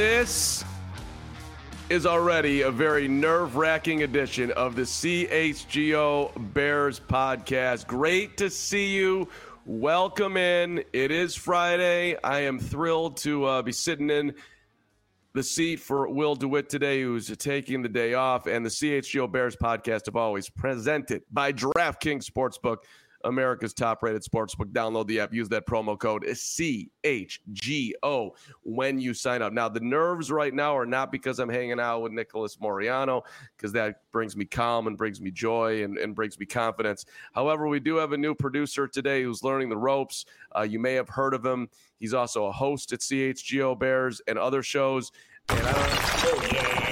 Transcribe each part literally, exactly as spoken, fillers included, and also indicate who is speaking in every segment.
Speaker 1: This is already a very nerve-wracking edition of the C H G O Bears podcast. Great to see you. Welcome in. It is Friday. I am thrilled to uh, be sitting in the seat for Will DeWitt today, who's taking the day off. And the C H G O Bears podcast, of always, presented by DraftKings Sportsbook, America's top-rated sportsbook. Download the app. Use that promo code C H G O when you sign up. Now, the nerves right now are not because I'm hanging out with Nicholas Moriano, because that brings me calm and brings me joy and, and brings me confidence. However, we do have a new producer today who's learning the ropes. Uh, you may have heard of him. He's also a host at C H G O Bears and other shows. And I don't oh, yeah.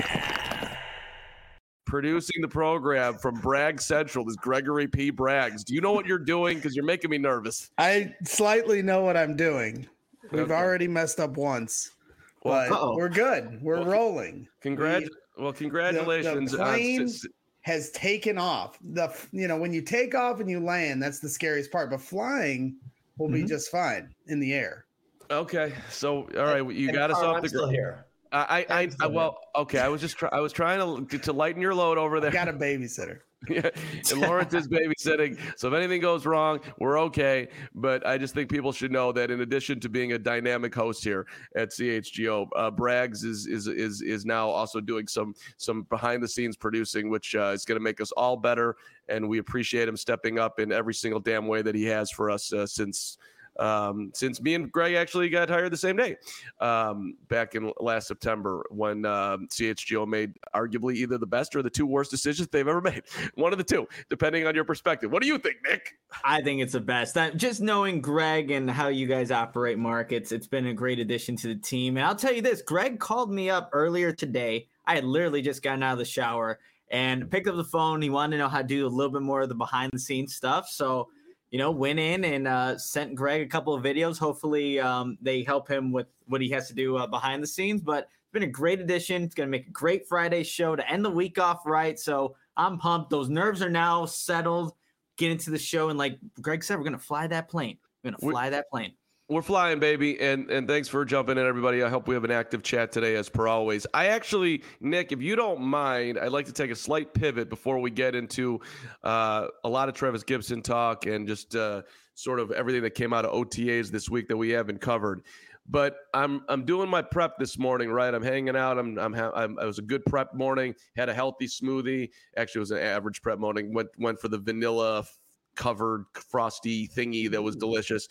Speaker 1: Producing the program from Bragg Central is Gregory P. Braggs. Do you know what you're doing? Because you're making me nervous.
Speaker 2: I slightly know what I'm doing. We've okay. already messed up once, but well, we're good. We're well, rolling.
Speaker 1: Congrat- we, well, congratulations.
Speaker 2: The, the plane uh, has taken off. The you know when you take off and you land, that's the scariest part. But flying will mm-hmm. be just fine in the air.
Speaker 1: Okay, so all right, you and got us off the
Speaker 3: ground here.
Speaker 1: I, I, I, well, okay. I was just, try, I was trying to to lighten your load over there.
Speaker 2: I got a babysitter.
Speaker 1: Yeah, and Lawrence is babysitting. So if anything goes wrong, we're okay. But I just think people should know that in addition to being a dynamic host here at C H G O, uh, Braggs is is is is now also doing some some behind the scenes producing, which uh, is going to make us all better. And we appreciate him stepping up in every single damn way that he has for us uh, since. Um, since me and Greg actually got hired the same day, um, back in last September when um, C H G O made arguably either the best or the two worst decisions they've ever made. One of the two, depending on your perspective. What do you think, Nick?
Speaker 3: I think it's the best. That, just knowing Greg and how you guys operate markets, it's been a great addition to the team. And I'll tell you this, Greg called me up earlier today. I had literally just gotten out of the shower and picked up the phone. He wanted to know how to do a little bit more of the behind the scenes stuff. So you know, went in and uh, sent Greg a couple of videos. Hopefully um, they help him with what he has to do uh, behind the scenes. But it's been a great addition. It's going to make a great Friday show to end the week off right. So I'm pumped. Those nerves are now settled. Get into the show. And like Greg said, we're going to fly that plane. We're going to fly that plane.
Speaker 1: We're flying, baby, and and thanks for jumping in, everybody. I hope we have an active chat today, as per always. I actually, Nick, if you don't mind, I'd like to take a slight pivot before we get into uh, a lot of Travis Gibson talk and just uh, sort of everything that came out of O T As this week that we haven't covered. But I'm I'm doing my prep this morning, right? I'm hanging out. I'm I'm, ha- I'm it was a good prep morning. Had a healthy smoothie. Actually, it was an average prep morning. Went went for the vanilla covered frosty thingy that was delicious,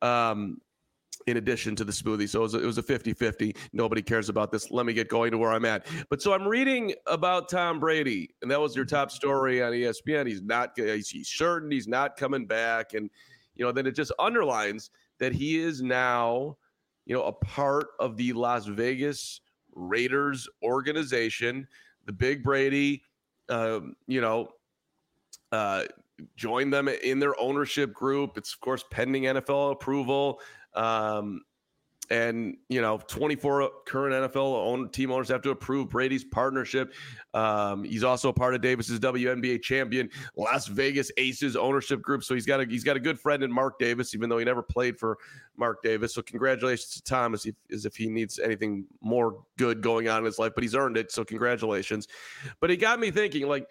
Speaker 1: um, in addition to the smoothie. So it was a, it was a fifty-fifty. Nobody cares about this. Let me get going to where I'm at. But so I'm reading about Tom Brady, and that was your top story on E S P N. He's not, he's, he's certain he's not coming back. And, you know, then it just underlines that he is now, you know, a part of the Las Vegas Raiders organization. The Big Brady, um, you know, uh, join them in their ownership group. It's, of course, pending N F L approval. Um, and, you know, twenty-four current N F L own team owners have to approve Brady's partnership. Um, he's also a part of Davis's W N B A champion Las Vegas Aces ownership group. So he's got a, he's got a good friend in Mark Davis, even though he never played for Mark Davis. So congratulations to Tom as if, as if he needs anything more good going on in his life, but he's earned it. So congratulations. But it got me thinking, like,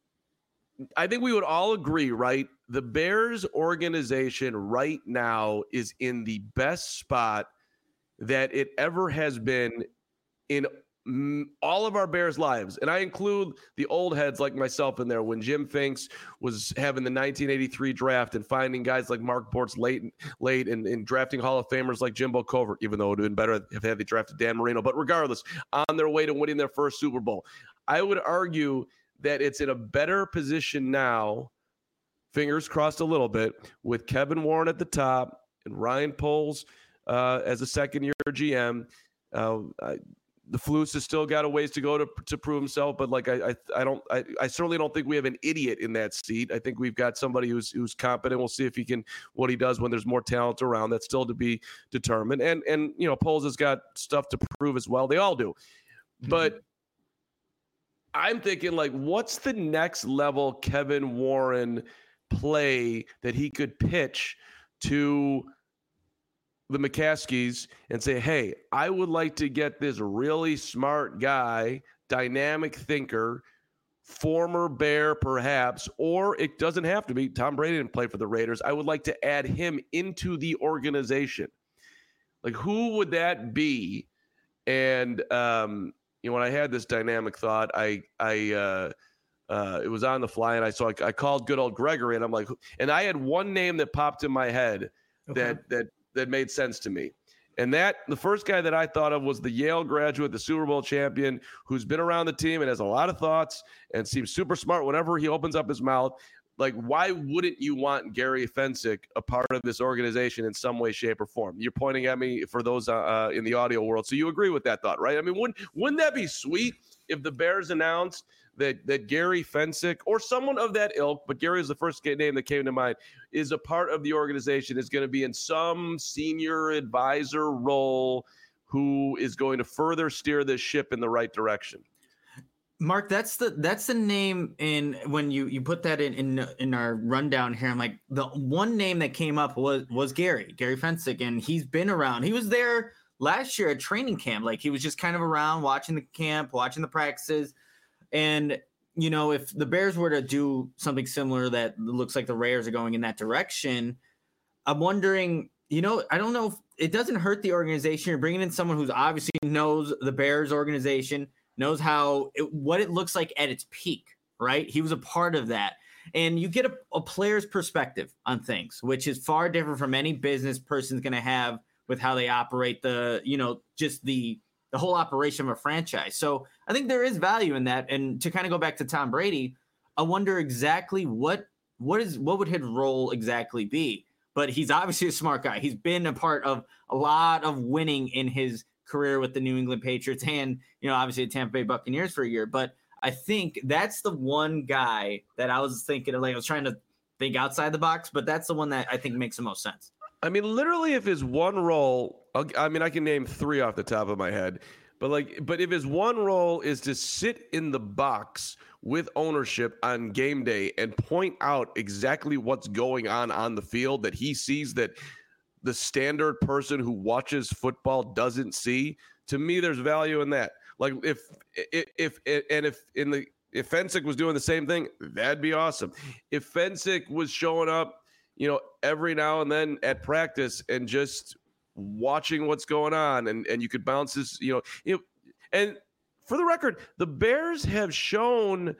Speaker 1: I think we would all agree, right? The Bears organization right now is in the best spot that it ever has been in all of our Bears lives. And I include the old heads like myself in there when Jim Finks was having the nineteen eighty-three draft and finding guys like Mark Bortz late, late and, and drafting Hall of Famers like Jimbo Covert, even though it would have been better if had they drafted Dan Marino. But regardless, on their way to winning their first Super Bowl, I would argue that it's in a better position now, fingers crossed a little bit, with Kevin Warren at the top and Ryan Poles uh, as a second-year G M. Uh, I, the Flus has still got a ways to go to to prove himself, but like I I, I don't I, I certainly don't think we have an idiot in that seat. I think we've got somebody who's who's competent. We'll see if he can what he does when there's more talent around. That's still to be determined. And and you know, Poles has got stuff to prove as well. They all do, mm-hmm. but. I'm thinking, like, what's the next level Kevin Warren play that he could pitch to the McCaskies and say, hey, I would like to get this really smart guy, dynamic thinker, former Bear perhaps, or it doesn't have to be. Tom Brady didn't play for the Raiders. I would like to add him into the organization. Like, who would that be? And, um, you know, when I had this dynamic thought, I, I, uh, uh, it was on the fly, and I saw, I called good old Gregory, and I'm like, and I had one name that popped in my head okay. that, that, that made sense to me. And that the first guy that I thought of was the Yale graduate, the Super Bowl champion, who's been around the team and has a lot of thoughts and seems super smart whenever he opens up his mouth. Like, why wouldn't you want Gary Fensick a part of this organization in some way, shape, or form? You're pointing at me for those uh, in the audio world. So you agree with that thought, right? I mean, wouldn't, wouldn't that be sweet if the Bears announced that that Gary Fensick or someone of that ilk, but Gary is the first name that came to mind, is a part of the organization, is going to be in some senior advisor role who is going to further steer this ship in the right direction?
Speaker 3: Mark, that's the that's the name in when you you put that in in in our rundown here. I'm like, the one name that came up was was Gary Gary Fensick, and he's been around. He was there last year at training camp. Like, he was just kind of around watching the camp, watching the practices. And, you know, if the Bears were to do something similar that looks like the Raiders are going in that direction, I'm wondering, you know, I don't know if it doesn't hurt the organization. You're bringing in someone who's obviously knows the Bears organization, knows how it, what it looks like at its peak, right? He was a part of that. And you get a, a player's perspective on things, which is far different from any business person's going to have with how they operate the, you know, just the the whole operation of a franchise. So I think there is value in that. And to kind of go back to Tom Brady, I wonder exactly what what is what would his role exactly be. But he's obviously a smart guy. He's been a part of a lot of winning in his career with the New England Patriots and, you know, obviously the Tampa Bay Buccaneers for a year. But I think that's the one guy that I was thinking of. Like, I was trying to think outside the box, but that's the one that I think makes the most sense.
Speaker 1: I mean, literally, if his one role, I mean, I can name three off the top of my head, but like, but if his one role is to sit in the box with ownership on game day and point out exactly what's going on on the field that he sees that the standard person who watches football doesn't see, to me, there's value in that. Like, if, if, if and if in the, if Fensick was doing the same thing, that'd be awesome. If Fensick was showing up, you know, every now and then at practice and just watching what's going on, and, and you could bounce this, you know, you know, and for the record, the Bears have shown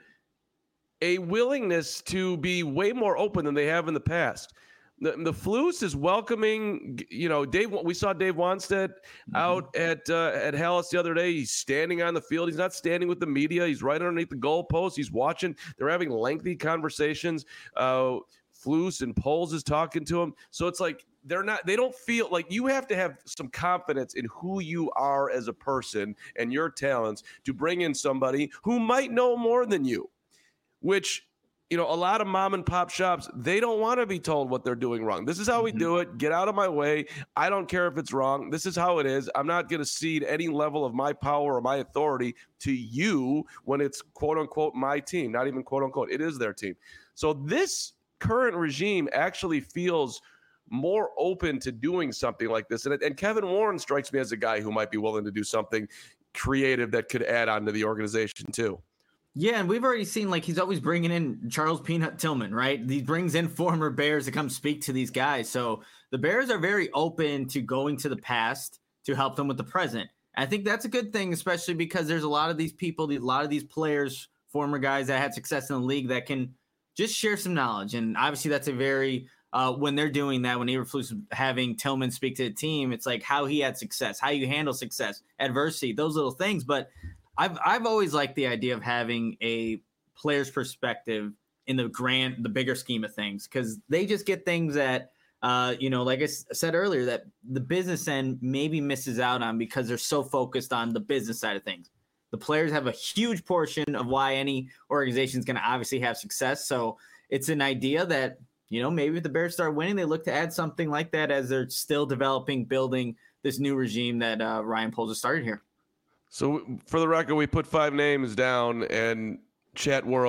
Speaker 1: a willingness to be way more open than they have in the past. The, the Flus is welcoming, you know, Dave. We saw Dave Wanstead mm-hmm. out at uh, at Hallis the other day. He's standing on the field. He's not standing with the media. He's right underneath the goalpost. He's watching. They're having lengthy conversations. Uh, Flus and Poles is talking to him. So it's like they're not, they don't feel like, you have to have some confidence in who you are as a person and your talents to bring in somebody who might know more than you, which, you know, a lot of mom and pop shops, they don't want to be told what they're doing wrong. This is how we do it. Get out of my way. I don't care if it's wrong. This is how it is. I'm not going to cede any level of my power or my authority to you when it's quote unquote my team, not even quote unquote. It is their team. So this current regime actually feels more open to doing something like this. And, and Kevin Warren strikes me as a guy who might be willing to do something creative that could add on to the organization too.
Speaker 3: Yeah, and we've already seen, like, he's always bringing in Charles Peanut Tillman, right? He brings in former Bears to come speak to these guys. So the Bears are very open to going to the past to help them with the present. I think that's a good thing, especially because there's a lot of these people, a lot of these players, former guys that had success in the league that can just share some knowledge. And obviously that's a very, uh, when they're doing that, when Eberflus is having Tillman speak to the team, it's like how he had success, how you handle success, adversity, those little things. But I've I've always liked the idea of having a player's perspective in the grand, the bigger scheme of things, because they just get things that, uh, you know, like I said earlier, that the business end maybe misses out on because they're so focused on the business side of things. The players have a huge portion of why any organization is going to obviously have success. So it's an idea that, you know, maybe if the Bears start winning, they look to add something like that as they're still developing, building this new regime that uh, Ryan Poles has started here.
Speaker 1: So for the record, we put five names down, and chat world,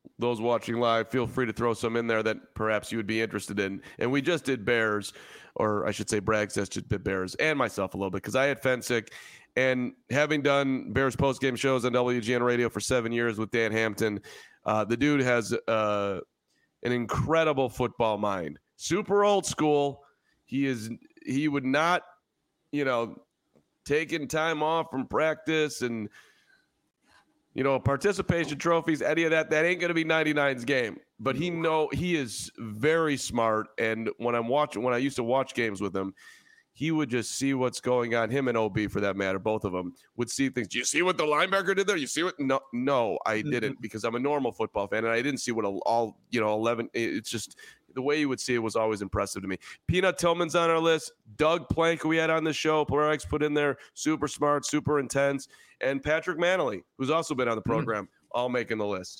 Speaker 1: those watching live, feel free to throw some in there that perhaps you would be interested in. And we just did Bears, or I should say Bragg just did Bears, and myself a little bit, because I had Fensick. And having done Bears postgame shows on W G N Radio for seven years with Dan Hampton, uh, the dude has uh, an incredible football mind. Super old school. He is. He would not, you know, taking time off from practice and, you know, participation trophies, any of that. That ain't going to be ninety-nine's game. But he know he is very smart. And when I'm watching, when I used to watch games with him, he would just see what's going on. Him and O B, for that matter, both of them would see things. Do you see what the linebacker did there? You see what? No, no, I didn't, because I'm a normal football fan, and I didn't see what all, you know, eleven. It's just the way you would see it was always impressive to me. Peanut Tillman's on our list. Doug Plank, who we had on the show, Polarex put in there, super smart, super intense, and Patrick Manley, who's also been on the program, mm-hmm. all making the list.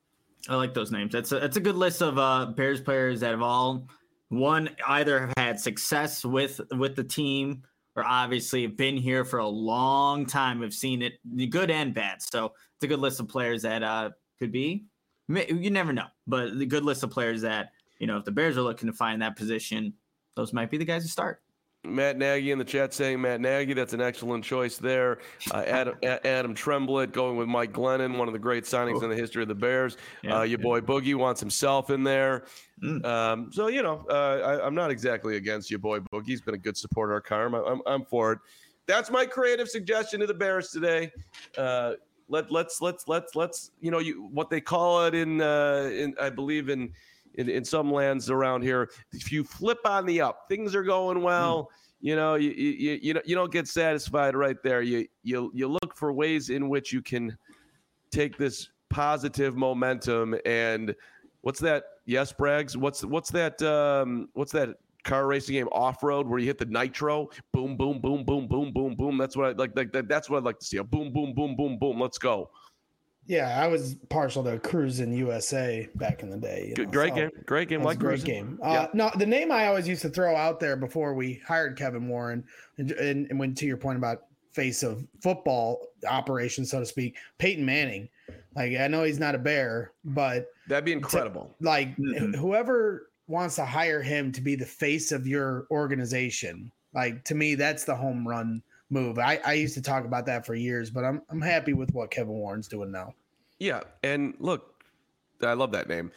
Speaker 3: I like those names. That's a, that's a good list of uh, Bears players that have all. One, either have had success with with the team, or obviously have been here for a long time, have seen it, the good and bad. So it's a good list of players that uh, could be. You never know, but the good list of players that, you know, if the Bears are looking to find that position, those might be the guys to start.
Speaker 1: Matt Nagy in the chat saying Matt Nagy. That's an excellent choice there. Uh, Adam, Adam Tremblett going with Mike Glennon, one of the great signings oh. in the history of the Bears. Yeah, uh, your yeah. boy Boogie wants himself in there. Mm. Um, so, you know, uh, I, I'm not exactly against your boy Boogie. He's been a good supporter of Carm. I, I'm, I'm for it. That's my creative suggestion to the Bears today. Uh, let let's let's let's let's you know you what they call it in uh, in I believe in. In, in some lands around here, if you flip on the up, things are going well. Mm. You know, you you you you don't get satisfied right there. You you you look for ways in which you can take this positive momentum. And what's that? Yes, Braggs. What's what's that? Um, what's that car racing game, Off Road, where you hit the nitro? Boom, boom, boom, boom, boom, boom, boom. That's what I like. Like that, that's what I'd like to see. A boom, boom, boom, boom, boom. Let's go.
Speaker 2: Yeah, I was partial to Cruising U S A back in the day. You know,
Speaker 1: great
Speaker 2: so
Speaker 1: game, great game, like
Speaker 2: great
Speaker 1: Cruising.
Speaker 2: game. Uh, yeah. No, the name I always used to throw out there before we hired Kevin Warren, and, and, and when to your point about face of football operation, so to speak, Peyton Manning. Like, I know he's not a Bear, but
Speaker 1: that'd be incredible.
Speaker 2: To, like mm-hmm. whoever wants to hire him to be the face of your organization, like, to me, that's the home run move. I, I used to talk about that for years, but I'm I'm happy with what Kevin Warren's doing now.
Speaker 1: Yeah, and look, I love that name.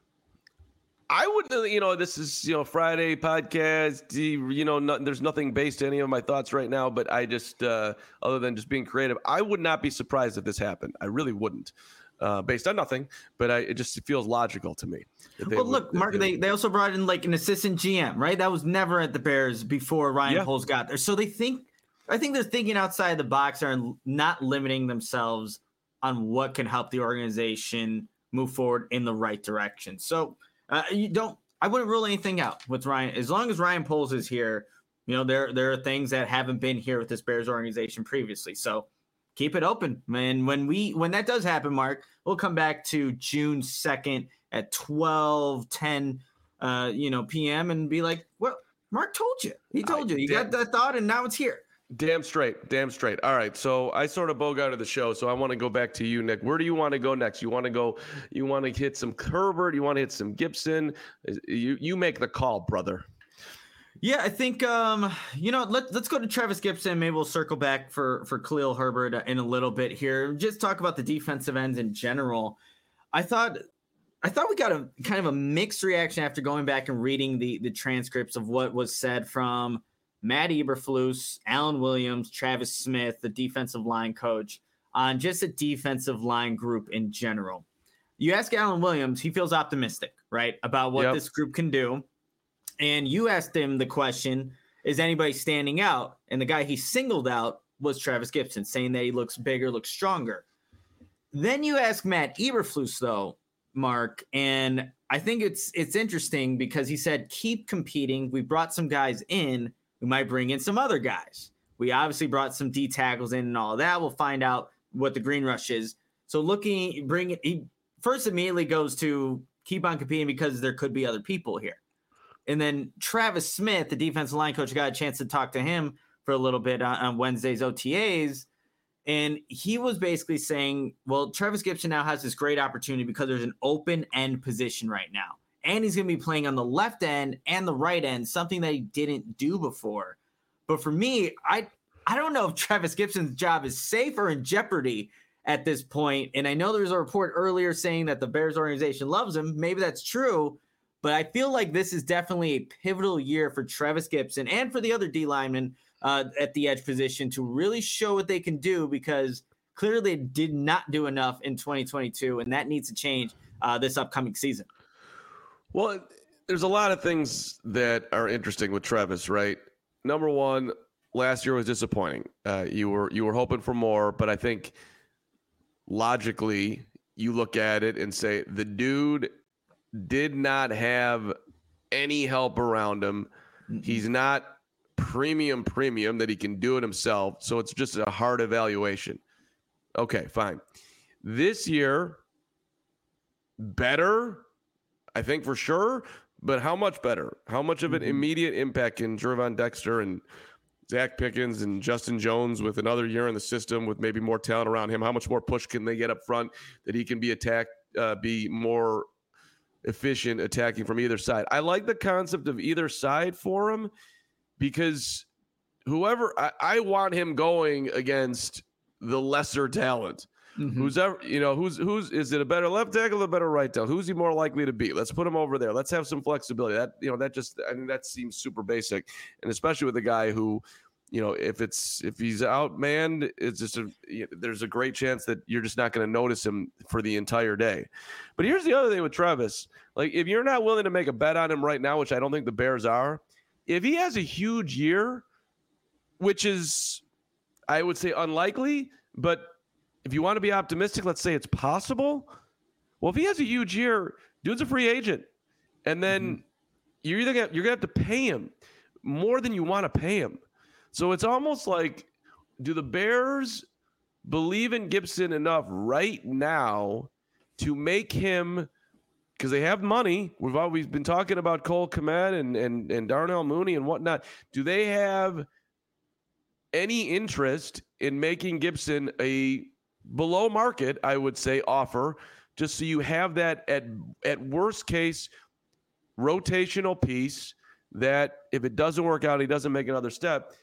Speaker 1: I would, you know, this is, you know, Friday podcast, you know, no, there's nothing based to any of my thoughts right now, but I just, uh, other than just being creative, I would not be surprised if this happened. I really wouldn't, uh, based on nothing, but I, it just feels logical to me.
Speaker 3: Well, look, would, Mark, they, they, they also brought in like an assistant G M, right? That was never at the Bears before Ryan yeah. Poles got there. So they think, I think they're thinking outside the box and not limiting themselves on what can help the organization move forward in the right direction. So uh, you don't, I wouldn't rule anything out with Ryan. As long as Ryan Poles is here, you know, there, there are things that haven't been here with this Bears organization previously. So keep it open. And when we, when that does happen, Mark, we'll come back to June second at twelve ten, uh, you know, P M and be like, well, Mark told you, he told you, you got that thought and now it's here.
Speaker 1: Damn straight. Damn straight. All right. So I sort of bogarted the show. So I want to go back to you, Nick. Where do you want to go next? You want to go, you want to hit some Herbert? You want to hit some Gibson? You you make the call, brother.
Speaker 3: Yeah, I think, um, you know, let, let's go to Travis Gibson. Maybe we'll circle back for, for Khalil Herbert in a little bit here. Just talk about the defensive ends in general. I thought I thought we got a kind of a mixed reaction after going back and reading the, the transcripts of what was said from Matt Eberflus, Alan Williams, Travis Smith, the defensive line coach, on just a defensive line group in general. You ask Alan Williams, he feels optimistic, right, about what yep. this group can do. And you asked him the question, is anybody standing out? And the guy he singled out was Travis Gibson, saying that he looks bigger, looks stronger. Then you ask Matt Eberflus, though, Mark, and I think it's it's interesting because he said, keep competing. We brought some guys in. We might bring in some other guys. We obviously brought some D tackles in and all of that. We'll find out what the green rush is. So looking, bring it. He first immediately goes to keep on competing because there could be other people here. And then Travis Smith, the defensive line coach, got a chance to talk to him for a little bit on, on Wednesday's O T As. And he was basically saying, well, Travis Gibson now has this great opportunity because there's an open end position right now. And he's going to be playing on the left end and the right end, something that he didn't do before. But for me, I I don't know if Travis Gibson's job is safe or in jeopardy at this point. And I know there was a report earlier saying that the Bears organization loves him. Maybe that's true. But I feel like this is definitely a pivotal year for Travis Gibson and for the other D linemen uh, at the edge position to really show what they can do, because clearly they did not do enough in twenty twenty-two, and that needs to change uh, this upcoming season.
Speaker 1: Well, there's a lot of things that are interesting with Travis, right? Number one, last year was disappointing. Uh, you were you were hoping for more, but I think logically you look at it and say the dude did not have any help around him. He's not premium premium that he can do it himself, so it's just a hard evaluation. Okay, fine. This year, better, I think for sure, but how much better? How much of an immediate impact can Gervon Dexter and Zach Pickens and Justin Jones with another year in the system with maybe more talent around him? How much more push can they get up front that he can be attacked, uh, be more efficient attacking from either side? I like the concept of either side for him because whoever I, I want him going against the lesser talent. Mm-hmm. Who's ever, you know, who's, who's, is it a better left tackle or a better right tackle? Who's he more likely to be? Let's put him over there. Let's have some flexibility. That, you know, that just, I mean, that seems super basic. And especially with a guy who, you know, if it's, if he's outmanned, it's just a, you know, there's a great chance that you're just not going to notice him for the entire day. But here's the other thing with Travis. Like, if you're not willing to make a bet on him right now, which I don't think the Bears are, if he has a huge year, which is, I would say unlikely, but if you want to be optimistic, let's say it's possible. Well, if he has a huge year, dude's a free agent. And then mm-hmm. you're either gonna, you're going to have to pay him more than you want to pay him. So it's almost like, do the Bears believe in Gibson enough right now to make him, because they have money. We've always been talking about Cole Kmet and, and, and Darnell Mooney and whatnot. Do they have any interest in making Gibson a below market, I would say, offer, just so you have that at at worst case rotational piece that if it doesn't work out, he doesn't make another step,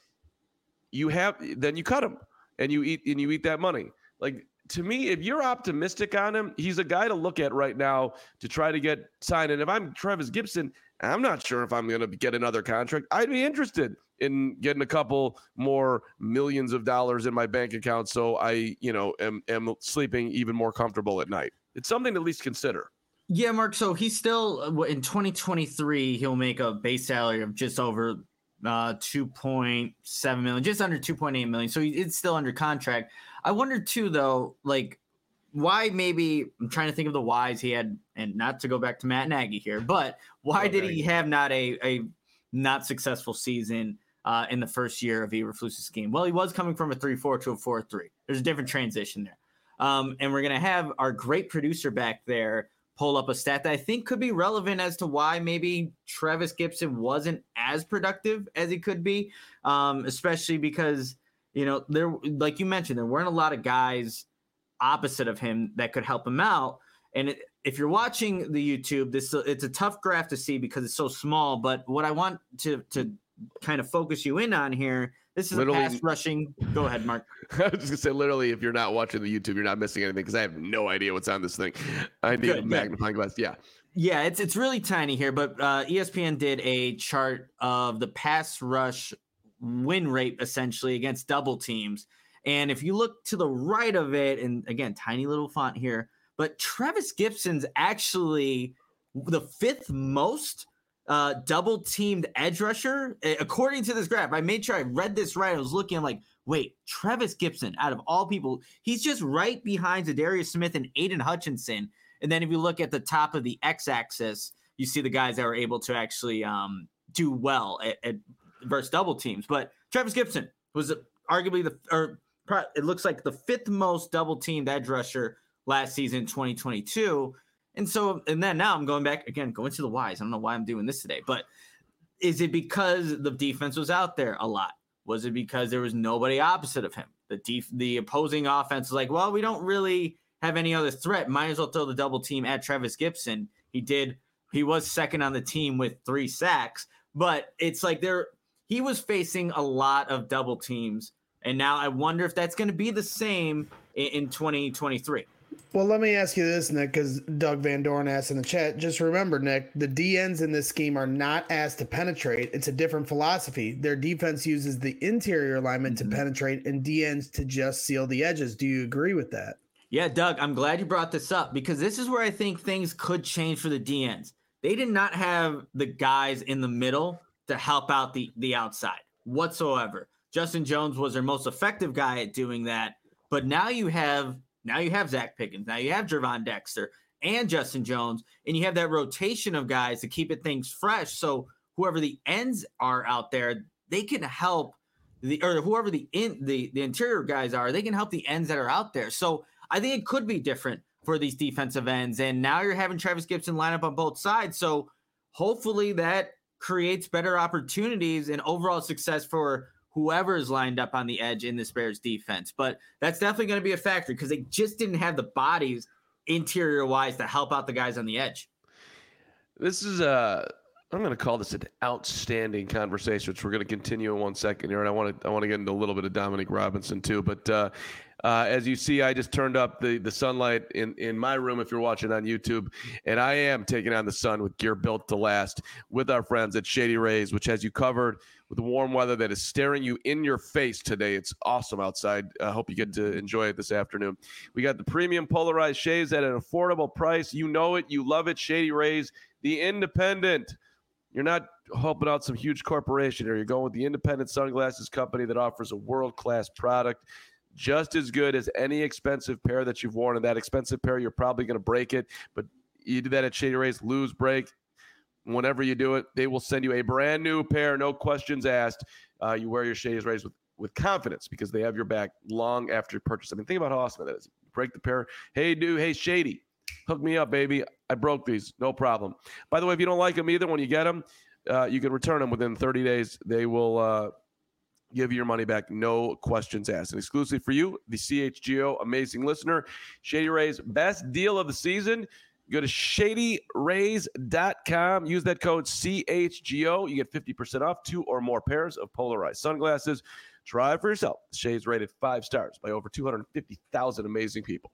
Speaker 1: you have, then you cut him and you eat and you eat that money. Like, to me, if you're optimistic on him, he's a guy to look at right now to try to get signed. And if I'm Travis Gibson, I'm not sure if I'm going to get another contract. I'd be interested in getting a couple more millions of dollars in my bank account so I, you know, am, am sleeping even more comfortable at night. It's something to at least consider.
Speaker 3: Yeah, Mark. So he's still, in twenty twenty-three, he'll make a base salary of just over uh, two point seven million, just under two point eight million. So it's still under contract. I wonder too, though, like, why maybe I'm trying to think of the whys he had, and not to go back to Matt Nagy here, but why okay. did he have not a, a not successful season uh, in the first year of Eberflus's scheme? Well, he was coming from a three four to a four three. There's a different transition there. Um, and we're going to have our great producer back there pull up a stat that I think could be relevant as to why maybe Travis Gibson wasn't as productive as he could be, um, especially because, you know, there, like you mentioned, there weren't a lot of guys opposite of him that could help him out. And it, if you're watching the YouTube, this it's a tough graph to see because it's so small. But what I want to to kind of focus you in on here, this is literally, a pass rushing. Go ahead, Mark.
Speaker 1: I was just gonna say, literally, if you're not watching the YouTube, you're not missing anything because I have no idea what's on this thing. I need Good, a magnifying yeah. glass. Yeah.
Speaker 3: Yeah, it's it's really tiny here, but uh, E S P N did a chart of the pass rush win rate essentially against double teams. And if you look to the right of it, and again, tiny little font here, but Travis Gibson's actually the fifth most uh, double teamed edge rusher, according to this graph. I made sure I read this right. I was looking, I'm like, wait, Travis Gibson, out of all people, he's just right behind Zadarius Smith and Aiden Hutchinson. And then if you look at the top of the x-axis, you see the guys that were able to actually um, do well at, at versus double teams. But Travis Gibson was arguably the, or it looks like the fifth most double teamed edge rusher last season, twenty twenty-two. And so, and then now I'm going back again, going to the whys. I don't know why I'm doing this today, but is it because the defense was out there a lot? Was it because there was nobody opposite of him? The def- the opposing offense was like, well, we don't really have any other threat. Might as well throw the double team at Travis Gibson. He did. He was second on the team with three sacks, but it's like there he was facing a lot of double teams. And now I wonder if that's going to be the same in, in twenty twenty-three.
Speaker 2: Well, let me ask you this, Nick, because Doug Van Dorn asked in the chat. Just remember, Nick, the D Ns in this scheme are not asked to penetrate. It's a different philosophy. Their defense uses the interior alignment mm-hmm. to penetrate and D Ns to just seal the edges. Do you agree with that?
Speaker 3: Yeah, Doug, I'm glad you brought this up because this is where I think things could change for the D Ns. They did not have the guys in the middle to help out the, the outside whatsoever. Justin Jones was their most effective guy at doing that. But now you have now you have Zach Pickens, now you have Gervon Dexter and Justin Jones, and you have that rotation of guys to keep it things fresh. So whoever the ends are out there, they can help the or whoever the in the, the interior guys are, they can help the ends that are out there. So I think it could be different for these defensive ends. And now you're having Travis Gibson line up on both sides. So hopefully that creates better opportunities and overall success for whoever is lined up on the edge in this Bears defense. But that's definitely going to be a factor because they just didn't have the bodies interior wise to help out the guys on the edge.
Speaker 1: This is a, I'm going to call this an outstanding conversation, which we're going to continue in one second here. And I want to, I want to get into a little bit of Dominic Robinson too. But uh, uh, as you see, I just turned up the, the sunlight in, in my room if you're watching on YouTube. And I am taking on the sun with gear built to last with our friends at Shady Rays, which has you covered with the warm weather that is staring you in your face today. It's awesome outside. I hope you get to enjoy it this afternoon. We got the premium polarized shades at an affordable price. You know it. You love it. Shady Rays, the independent. You're not helping out some huge corporation here. You're going with the independent sunglasses company that offers a world-class product just as good as any expensive pair that you've worn. And that expensive pair, you're probably going to break it. But you do that at Shady Rays, lose, break. Whenever you do it, they will send you a brand new pair, no questions asked. Uh, you wear your Shady Rays with, with confidence because they have your back long after you purchase. I mean, think about how awesome that is. You break the pair. Hey, dude. Hey, Shady. Hook me up, baby. I broke these. No problem. By the way, if you don't like them either, when you get them, uh, you can return them within thirty days. They will uh, give you your money back. No questions asked. And exclusively for you, the C H G O amazing listener, Shady Rays best deal of the season. Go to shady rays dot com. Use that code C H G O. You get fifty percent off two or more pairs of polarized sunglasses. Try it for yourself. Shades rated five stars by over two hundred fifty thousand amazing people.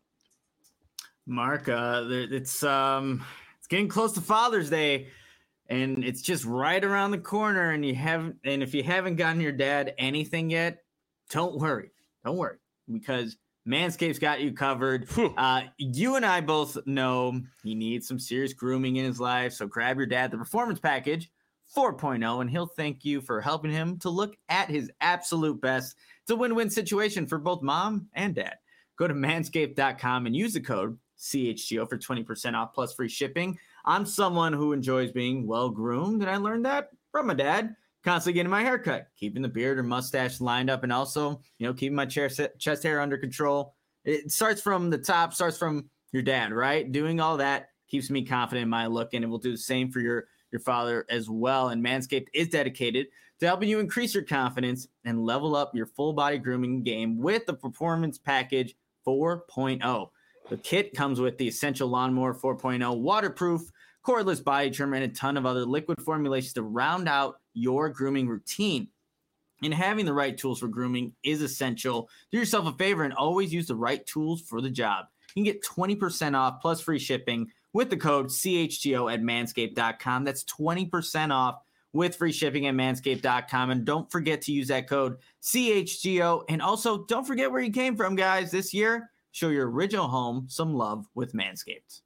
Speaker 3: Mark, uh, it's um, it's getting close to Father's Day, and it's just right around the corner. And you haven't, and if you haven't gotten your dad anything yet, don't worry, don't worry, because Manscaped's got you covered. Uh, you and I both know he needs some serious grooming in his life, so grab your dad the Performance Package four point oh, and he'll thank you for helping him to look at his absolute best. It's a win-win situation for both mom and dad. Go to manscaped dot com and use the code C H G O for twenty percent off plus free shipping. I'm someone who enjoys being well-groomed, and I learned that from my dad. Constantly getting my hair cut, keeping the beard or mustache lined up, and also, you know, keeping my chest chest hair under control. It starts from the top, starts from your dad, right? Doing all that keeps me confident in my look, and it will do the same for your, your father as well. And Manscaped is dedicated to helping you increase your confidence and level up your full body grooming game with the Performance Package four point oh. The kit comes with the Essential Lawnmower four point oh, waterproof, cordless body trimmer, and a ton of other liquid formulations to round out your grooming routine. And having the right tools for grooming is essential. Do yourself a favor and always use the right tools for the job. You can get twenty percent off plus free shipping with the code C H G O at manscaped dot com. That's twenty percent off with free shipping at manscaped dot com. And don't forget to use that code C H G O. And also, don't forget where you came from, guys. This year, show your original home some love with Manscaped.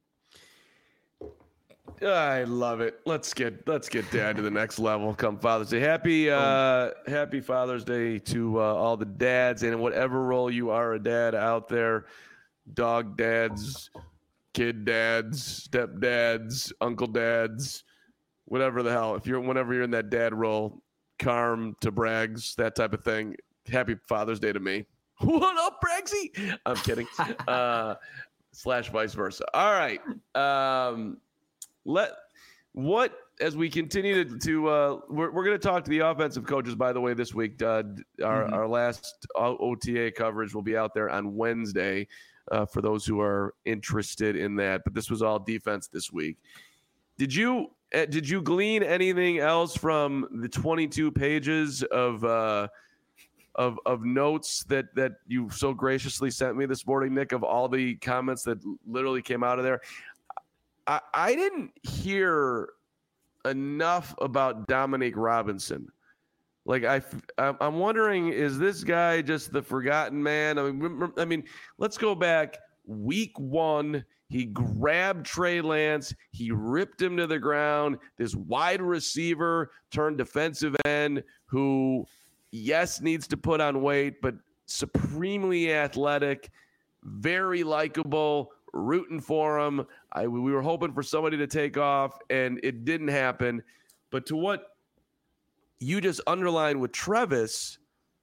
Speaker 1: I love it. Let's get let's get Dad to the next level come Father's Day. Happy uh, happy Father's Day to uh, all the dads, and in whatever role you are a dad out there, dog dads, kid dads, stepdads, uncle dads, whatever the hell. If you're whenever you're in that dad role, Carm to Braggs, that type of thing. Happy Father's Day to me. What up, Braggsy? I'm kidding. uh, slash vice versa. All right. Um, Let what as we continue to, to uh, we're we're going to talk to the offensive coaches. By the way, this week, uh, our
Speaker 2: Mhm.
Speaker 1: our last O T A coverage will be out there on Wednesday uh, for those who are interested in that. But this was all defense this week. Did you uh, did you glean anything else from the twenty-two pages of uh, of of notes that that you so graciously sent me this morning, Nick? Of all the comments that literally came out of there, I, I didn't hear enough about Dominique Robinson. Like I, I'm wondering, is this guy just the forgotten man? I mean, I mean, let's go back. Week one, he grabbed Trey Lance, he ripped him to the ground. This wide receiver turned defensive end, who, yes, needs to put on weight, but supremely athletic, very likable. Rooting for him. I, we were hoping for somebody to take off, and it didn't happen. But to what you just underlined with Travis,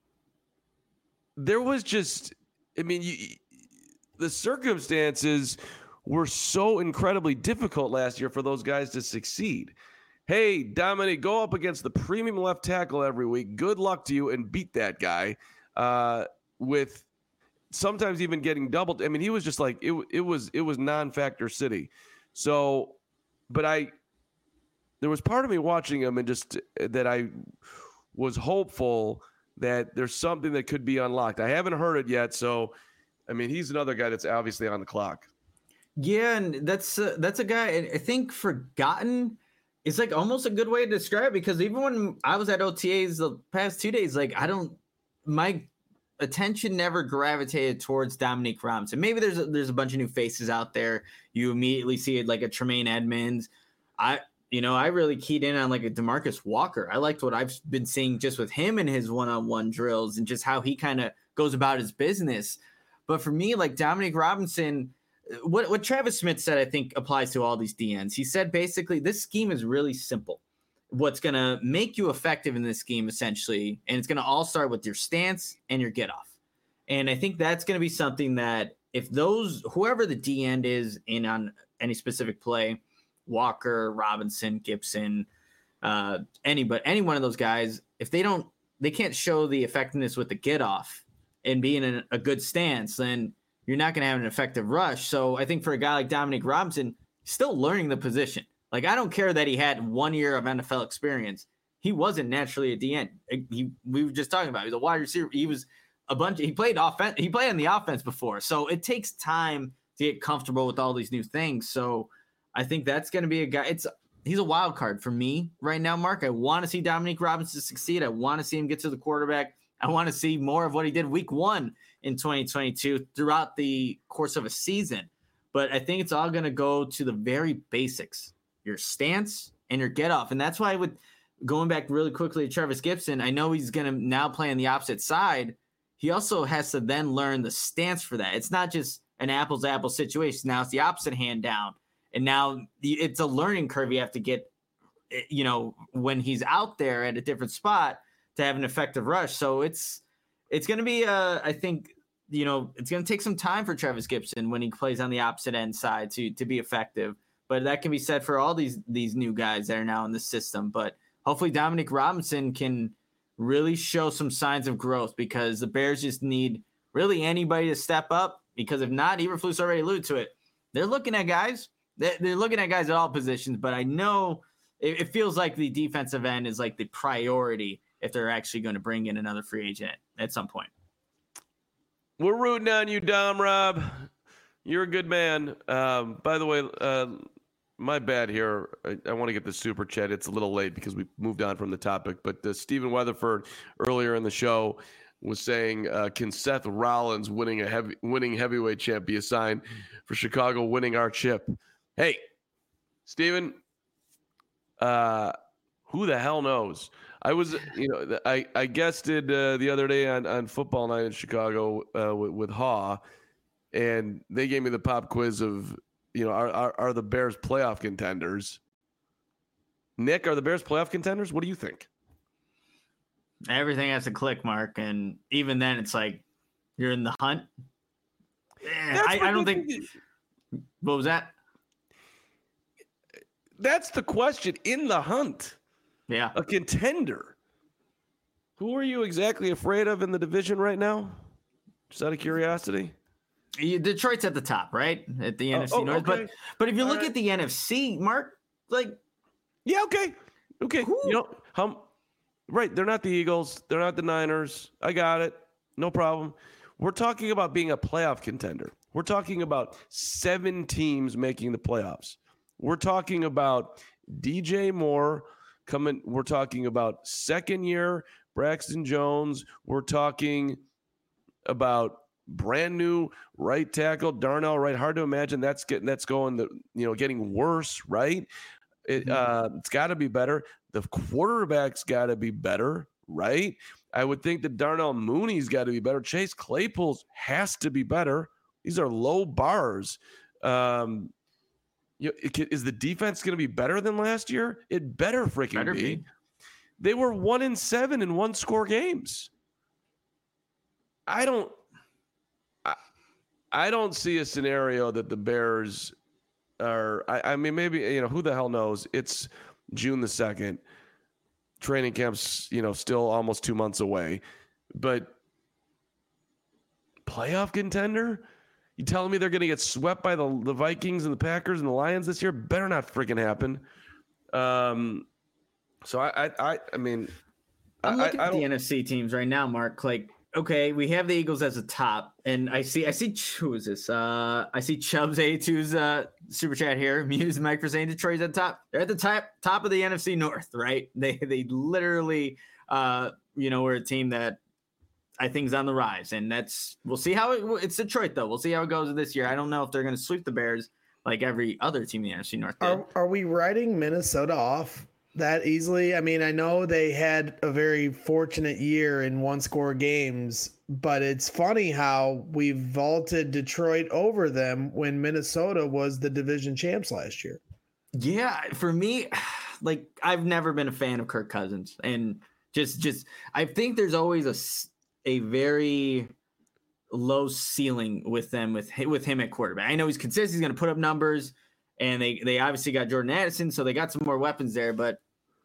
Speaker 1: there was just, I mean, you, the circumstances were so incredibly difficult last year for those guys to succeed. Hey, Dominic, go up against the premium left tackle every week. Good luck to you, and beat that guy uh, with sometimes even getting doubled. I mean, he was just like, it, it was, it was non-factor city. So, but I, there was part of me watching him and just that I was hopeful that there's something that could be unlocked. I haven't heard it yet. So, I mean, he's another guy that's obviously on the clock.
Speaker 3: Yeah. And that's, uh, that's a guy I think forgotten is like almost a good way to describe it, because even when I was at O T As the past two days, like I don't, my attention never gravitated towards Dominique Robinson. Maybe there's a, there's a bunch of new faces out there. You immediately see it like a Tremaine Edmonds. I, you know, I really keyed in on like a DeMarcus Walker. I liked what I've been seeing just with him and his one-on-one drills and just how he kind of goes about his business. But for me, like Dominique Robinson, what, what Travis Smith said, I think applies to all these D Ns. He said, basically, this scheme is really simple. What's going to make you effective in this scheme, essentially, and it's going to all start with your stance and your get off. And I think that's going to be something that if those, whoever the D end is in on any specific play, Walker, Robinson, Gibson, uh, any, but any one of those guys, if they don't, they can't show the effectiveness with the get off and being in a good stance, then you're not going to have an effective rush. So I think for a guy like Dominique Robinson, still learning the position. Like, I don't care that he had one year of N F L experience. He wasn't naturally a D N. He, we were just talking about, he was a wide receiver. He was a bunch. He played offense. He played on the offense before. So it takes time to get comfortable with all these new things. So I think that's going to be a guy. It's, he's a wild card for me right now, Mark. I want to see Dominique Robinson succeed. I want to see him get to the quarterback. I want to see more of what he did week one in twenty twenty-two throughout the course of a season. But I think it's all going to go to the very basics. Your stance and your get off. And that's why I would, going back really quickly to Travis Gibson, I know he's going to now play on the opposite side. He also has to then learn the stance for that. It's not just an apples to apples situation. Now it's the opposite hand down. And now it's a learning curve you have to get, you know, when he's out there at a different spot to have an effective rush. So it's, it's going to be, uh, I think, you know, it's going to take some time for Travis Gibson when he plays on the opposite end side to, to be effective. But that can be said for all these these new guys that are now in the system. But hopefully Dominique Robinson can really show some signs of growth, because the Bears just need really anybody to step up. Because if not, Eberflus already alluded to it. They're looking at guys. They're looking at guys at all positions. But I know it, it feels like the defensive end is like the priority if they're actually going to bring in another free agent at some point.
Speaker 1: We're rooting on you, Dom Rob. You're a good man. Um, by the way, uh, my bad here. I, I want to get the super chat. It's a little late because we moved on from the topic. But uh, Stephen Weatherford earlier in the show was saying, uh, "Can Seth Rollins winning a heavy winning heavyweight champ be a sign for Chicago winning our chip?" Hey, Stephen, uh, who the hell knows? I was, you know, I I guested uh, the other day on on Football Night in Chicago uh, with, with Haw, and they gave me the pop quiz of, you know, are, are are the Bears playoff contenders? Nick, are the Bears playoff contenders? What do you think?
Speaker 3: Everything has to click, Mark, and even then, it's like you're in the hunt. Eh, I, I don't think. What was that?
Speaker 1: That's the question. In the hunt.
Speaker 3: Yeah.
Speaker 1: A contender. Who are you exactly afraid of in the division right now? Just out of curiosity.
Speaker 3: Detroit's at the top, right? At the
Speaker 1: Oh,
Speaker 3: N F C
Speaker 1: oh,
Speaker 3: North.
Speaker 1: okay.
Speaker 3: But but if you
Speaker 1: All
Speaker 3: look
Speaker 1: right.
Speaker 3: at the N F C, Mark, like
Speaker 1: Yeah, okay. Okay.
Speaker 3: Who?
Speaker 1: You know, how right, they're not the Eagles, they're not the Niners. I got it. No problem. We're talking about being a playoff contender. We're talking about seven teams making the playoffs. We're talking about D J Moore coming. We're talking about second year Braxton Jones. We're talking about brand new right tackle Darnell Wright. Hard to imagine that's getting that's going the you know getting worse, right? It, uh, it's got to be better. The quarterback's got to be better, right? I would think that Darnell Mooney's got to be better. Chase Claypool's has to be better. These are low bars. Um, you know, it, is the defense going to be better than last year? It better freaking
Speaker 3: better
Speaker 1: be.
Speaker 3: be.
Speaker 1: They were one in seven in one score games. I don't. I, I don't see a scenario that the Bears are. I, I mean, maybe you know who the hell knows. It's June the second. Training camp's you know still almost two months away, but playoff contender. You telling me they're going to get swept by the the Vikings and the Packers and the Lions this year? Better not freaking happen. Um. So I I I, I mean,
Speaker 3: I'm
Speaker 1: I,
Speaker 3: looking
Speaker 1: I, I
Speaker 3: at the
Speaker 1: don't,
Speaker 3: N F C teams right now, Mark. Like, okay, we have the Eagles as a top, and I see, I see, who is this? Uh, I see Chubbs eighty-two's uh, super chat here. Muse Mike for saying Detroit's at the top. They're at the top, top of the N F C North, right? They, they literally, uh, you know, we're a team that I think is on the rise, and that's we'll see how it. It's Detroit though. We'll see how it goes this year. I don't know if they're going to sweep the Bears like every other team in the N F C North did.
Speaker 2: Are are we writing Minnesota off that easily? I mean, I know they had a very fortunate year in one score games, but it's funny how we vaulted Detroit over them when Minnesota was the division champs last year.
Speaker 3: Yeah, for me, like I've never been a fan of Kirk Cousins, and just just I think there's always a s- a very low ceiling with them with with him at quarterback. I know he's consistent; he's going to put up numbers, and they they obviously got Jordan Addison, so they got some more weapons there. But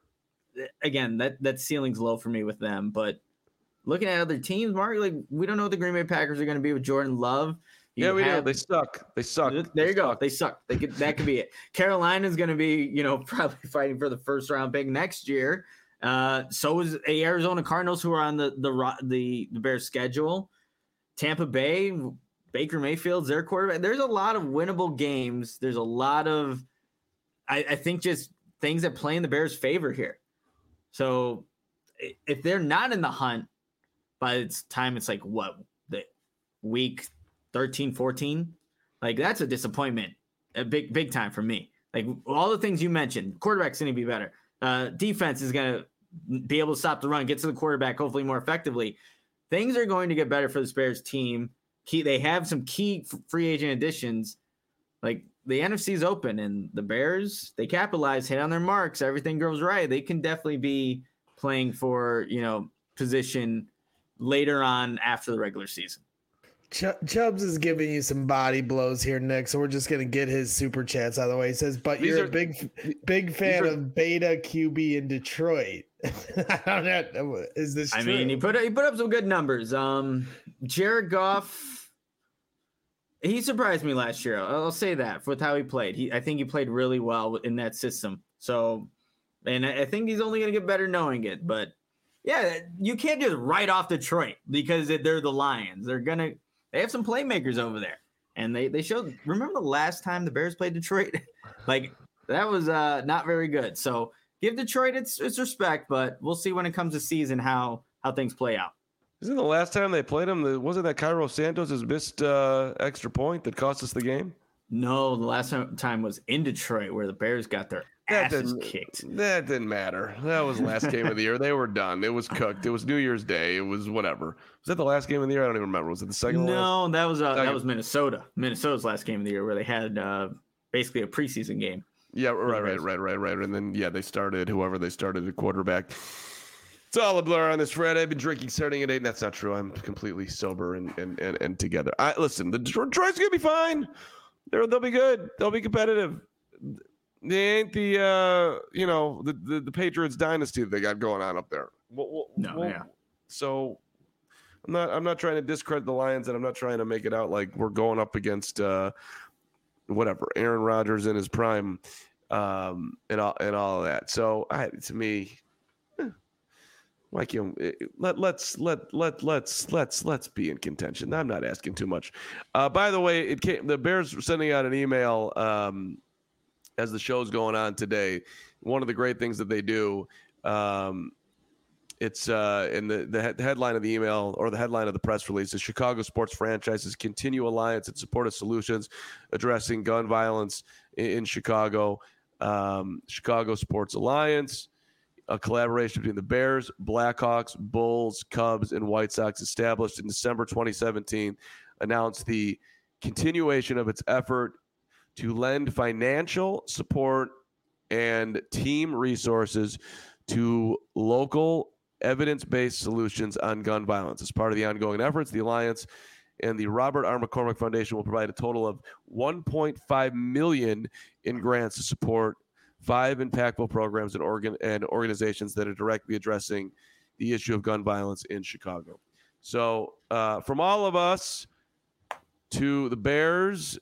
Speaker 3: again, that that ceiling's low for me with them. But looking at other teams, Mark, like we don't know what the Green Bay Packers are going to be with Jordan Love. You
Speaker 1: yeah, we
Speaker 3: have-
Speaker 1: do. They suck. They suck.
Speaker 3: There
Speaker 1: They
Speaker 3: you go.
Speaker 1: suck.
Speaker 3: They suck. They could, that could be it. Carolina's going to be, you know, probably fighting for the first round pick next year. Uh, so is a Arizona Cardinals, who are on the the the, the Bears schedule. Tampa Bay, Baker Mayfield's their quarterback. There's a lot of winnable games. There's a lot of, I, I think, just things that play in the Bears' favor here. So if they're not in the hunt by the time it's like what the week thirteen, fourteen, like that's a disappointment, a big, big time for me. Like all the things you mentioned, quarterback's going to be better. Uh, defense is going to be able to stop the run, get to the quarterback, hopefully more effectively. Things are going to get better for the Bears team. Key, they have some key f- free agent additions. Like the N F C is open, and the Bears, they capitalize, hit on their marks, everything goes right. They can definitely be playing for, you know, position later on after the regular season.
Speaker 2: Ch- Chubbs is giving you some body blows here, Nick. So we're just gonna get his super chats out of the way. He says, "But
Speaker 1: These
Speaker 2: you're
Speaker 1: are-
Speaker 2: a big, big fan
Speaker 1: are-
Speaker 2: of Beta Q B in Detroit." I don't know. Is this
Speaker 3: I
Speaker 2: true?
Speaker 3: mean, he put he put up some good numbers. Um, Jared Goff, he surprised me last year. I'll say that with how he played. He, I think he played really well in that system. So, and I I think he's only going to get better knowing it. But yeah, you can't just write off Detroit because they're the Lions. They're gonna they have some playmakers over there, and they they showed. Remember the last time the Bears played Detroit? Like that was uh, not very good. So give Detroit its its respect, but we'll see when it comes to season how how things play out.
Speaker 1: Isn't the last time they played him? The, wasn't that Cairo Santos' missed uh, extra point that cost us the game?
Speaker 3: No, the last time was in Detroit where the Bears got their
Speaker 1: That
Speaker 3: asses
Speaker 1: didn't
Speaker 3: kicked.
Speaker 1: That didn't matter. That was the last game of the year. They were done. It was cooked. It was New Year's Day. It was whatever. Was that the last game of the year? I don't even remember. Was it the second one?
Speaker 3: No, that was uh,
Speaker 1: Second.
Speaker 3: that was Minnesota. Minnesota's last game of the year where they had uh, basically a preseason game.
Speaker 1: Yeah, right,
Speaker 3: Bears.
Speaker 1: right, right, right, right. And then yeah, they started whoever they started at quarterback. It's all a blur on this Friday. I've been drinking starting at eight, and that's not true. I'm completely sober and and and, and together. I listen. The Detroit's gonna be fine. They're, they'll be good. They'll be competitive. they ain't the uh, you know the, the the Patriots dynasty that they got going on up there. Well, well,
Speaker 3: No,
Speaker 1: well,
Speaker 3: yeah.
Speaker 1: So I'm not I'm not trying to discredit the Lions, and I'm not trying to make it out like we're going up against uh, whatever Aaron Rodgers in his prime, um, and all and all of that. So I, to me, eh, like you know, let let's let let let's let's let's be in contention. I'm not asking too much. Uh, by the way, it came the Bears were sending out an email um, as the show's going on today. One of the great things that they do. Um, It's uh, in the, the, the headline of the email or the headline of the press release is Chicago sports franchises continue alliance in support of solutions addressing gun violence in, in Chicago. Um, Chicago Sports Alliance, a collaboration between the Bears, Blackhawks, Bulls, Cubs, and White Sox, established in December twenty seventeen, announced the continuation of its effort to lend financial support and team resources to local evidence-based solutions on gun violence. As part of the ongoing efforts, the Alliance and the Robert R. McCormick Foundation will provide a total of one point five million dollars in grants to support five impactful programs and, organ- and organizations that are directly addressing the issue of gun violence in Chicago. So uh, from all of us to the Bears,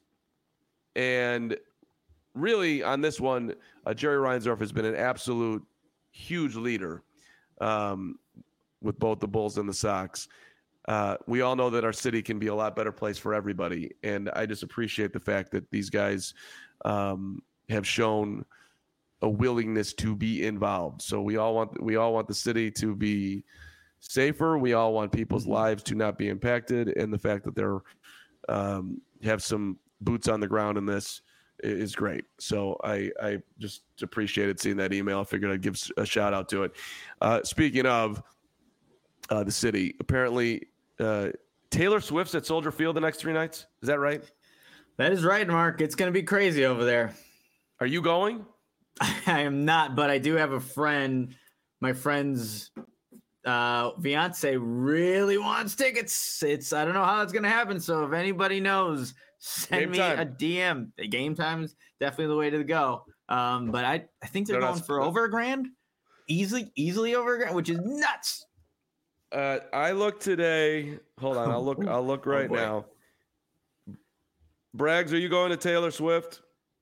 Speaker 1: and really on this one, uh, Jerry Reinsdorf has been an absolute huge leader um, with both the Bulls and the Sox. Uh, we all know that our city can be a lot better place for everybody. And I just appreciate the fact that these guys um, have shown a willingness to be involved. So we all want, we all want the city to be safer. We all want people's lives to not be impacted. And the fact that they're um, have some boots on the ground in this is great. So I, I just appreciated seeing that email. I figured I'd give a shout out to it. Uh, speaking of uh, the city, apparently uh, Taylor Swift's at Soldier Field the next three nights. Is that right?
Speaker 3: That is right, Mark. It's going to be crazy over there.
Speaker 1: Are you going?
Speaker 3: I am not, but I do have a friend. My friend's uh, fiance really wants tickets. It's I don't know how it's going to happen. So if anybody knows, send
Speaker 1: Game
Speaker 3: me
Speaker 1: time.
Speaker 3: a D M. The game time is definitely the way to go. Um, but I, I think they're
Speaker 1: They're
Speaker 3: going
Speaker 1: not-
Speaker 3: for over a grand, easily, easily over a grand, which is nuts.
Speaker 1: Uh, I look today. Hold on, I'll look. I'll look right
Speaker 3: boy.
Speaker 1: now. Braggs, are you going to Taylor Swift?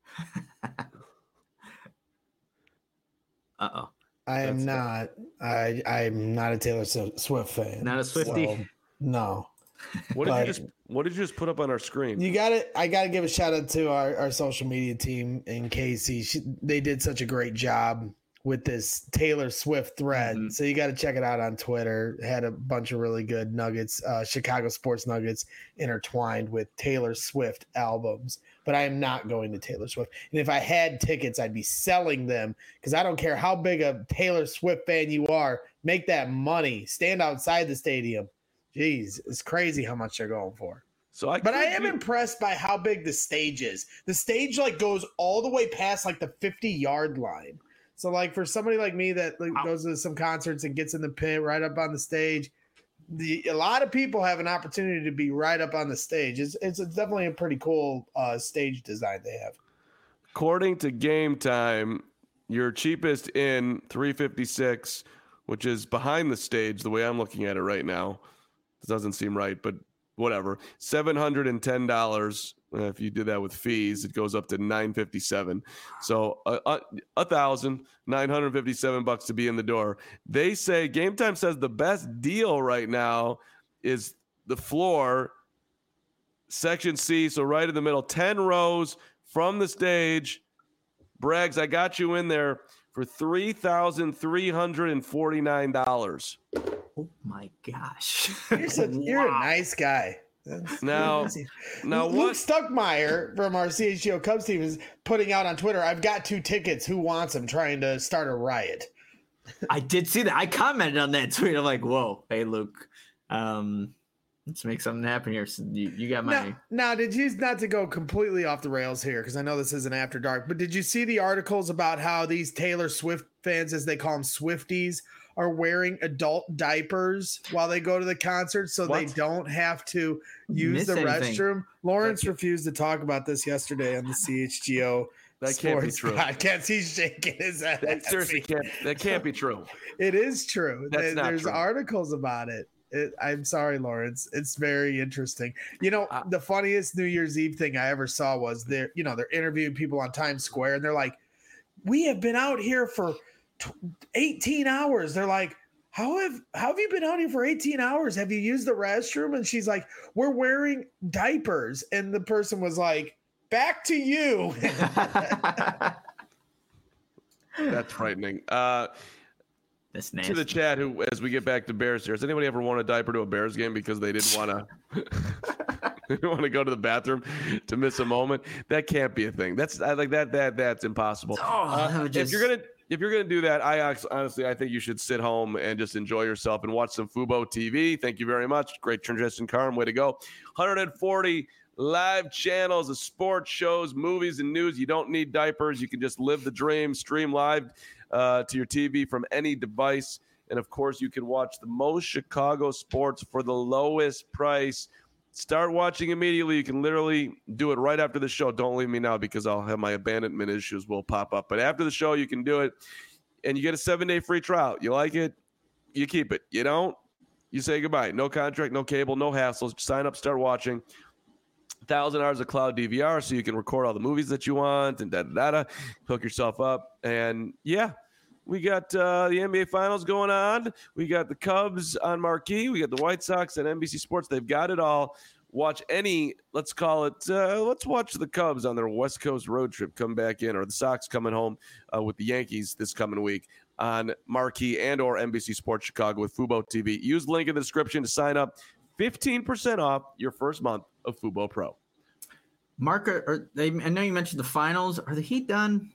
Speaker 3: Uh oh,
Speaker 2: I am
Speaker 1: That's-
Speaker 2: not. I I'm not a Taylor Swift fan.
Speaker 3: not a Swiftie.
Speaker 2: So, no.
Speaker 1: What did
Speaker 2: But-
Speaker 1: you just What did you just put up on our screen?
Speaker 2: You got it. I got to give a shout out to our, our social media team in Casey. She, they did such a great job with this Taylor Swift thread.
Speaker 3: Mhm.
Speaker 2: So you got to check it out on Twitter. Had a bunch of really good nuggets, uh, Chicago sports nuggets intertwined with Taylor Swift albums. But I am not going to Taylor Swift. And if I had tickets, I'd be selling them because I don't care how big a Taylor Swift fan you are. Make that money. Stand outside the stadium. Jeez, it's crazy how much they're going for.
Speaker 1: So I,
Speaker 2: But I
Speaker 1: could
Speaker 2: am
Speaker 1: be-
Speaker 2: impressed by how big the stage is. The stage like goes all the way past like the fifty yard line. So like for somebody like me that like,
Speaker 3: Wow.
Speaker 2: goes to some concerts and gets in the pit right up on the stage, the a lot of people have an opportunity to be right up on the stage. It's it's definitely a pretty cool uh, stage design they have.
Speaker 1: According to Game Time, your cheapest in three fifty-six, which is behind the stage. The way I'm looking at it right now, it doesn't seem right, but whatever. seven hundred ten dollars. Uh, if you do that with fees, it goes up to nine fifty-seven. So a uh, a thousand nine hundred fifty-seven bucks to be in the door. They say Game Time says the best deal right now is the floor, section C. So right in the middle, ten rows from the stage. Braggs, I got you in there for three thousand three hundred forty-nine dollars.
Speaker 3: Oh my gosh.
Speaker 2: You're, such, you're a
Speaker 3: Wow.
Speaker 2: nice guy. That's
Speaker 1: Now-
Speaker 2: crazy.
Speaker 1: Now
Speaker 2: Luke
Speaker 1: what?
Speaker 2: Stuckmeyer from our C H G O Cubs team is putting out on Twitter, I've got two tickets. Who wants them? Trying to start a riot.
Speaker 3: I did see that. I commented on that tweet. I'm like, whoa, hey Luke, um, let's make something happen here. So you, you got my
Speaker 2: Now, now, did you, not to go completely off the rails here, because I know this isn't after dark, but did you see the articles about how these Taylor Swift fans, as they call them Swifties, are wearing adult diapers while they go to the concert so they
Speaker 1: What?
Speaker 2: don't have to use
Speaker 3: Miss
Speaker 2: the
Speaker 3: anything.
Speaker 2: restroom? Lawrence
Speaker 3: Thank you.
Speaker 2: refused to talk about this yesterday on the C H G O
Speaker 1: That can't be
Speaker 2: sports
Speaker 1: true.
Speaker 2: podcast. He's shaking his head.
Speaker 1: That seriously can't. That can't be true.
Speaker 2: It is true.
Speaker 1: That's
Speaker 2: There-
Speaker 1: not
Speaker 2: There's
Speaker 1: true.
Speaker 2: articles about it. It, I'm sorry, Lawrence. It's very interesting. You know,
Speaker 1: Uh,
Speaker 2: the funniest New Year's Eve thing I ever saw was they're, you know, they're interviewing people on Times Square and they're like, we have been out here for eighteen hours. They're like, how have, how have you been out here for eighteen hours? Have you used the restroom? And she's like, we're wearing diapers. And the person was like, back to you.
Speaker 1: That's frightening. Uh,
Speaker 3: That's
Speaker 1: to
Speaker 3: nasty.
Speaker 1: the chat, who as we get back to Bears here, has anybody ever worn a diaper to a Bears game because they didn't want to? They didn't want to go to the bathroom to miss a moment. That can't be a thing. That's I like that. That that's impossible.
Speaker 3: Oh,
Speaker 1: Uh,
Speaker 3: that would
Speaker 1: If
Speaker 3: just-
Speaker 1: you're gonna if you're gonna do that, I act- honestly I think you should sit home and just enjoy yourself and watch some Fubo T V. Thank you very much. Great transition, Carm. Way to go. one hundred forty live channels of sports shows, movies, and news. You don't need diapers. You can just live the dream. Stream live uh, to your T V from any device. And of course, you can watch the most Chicago sports for the lowest price. Start watching immediately. You can literally do it right after the show. Don't leave me now because I'll have my abandonment issues will pop up. But after the show, you can do it. And you get a seven-day free trial. You like it, you keep it. You don't, you say goodbye. No contract, no cable, no hassles. Sign up, start watching. one thousand hours of cloud D V R so you can record all the movies that you want and da da da. Hook yourself up. And yeah, we got uh, the N B A Finals going on. We got the Cubs on marquee. We got the White Sox and N B C Sports. They've got it all. Watch any, let's call it, uh, let's watch the Cubs on their West Coast road trip come back in, or the Sox coming home uh, with the Yankees this coming week on marquee and or N B C Sports Chicago with Fubo T V. Use the link in the description to sign up. fifteen percent off your first month of Fubo Pro.
Speaker 3: Mark, are, are they, I know you mentioned the finals. Are the Heat done?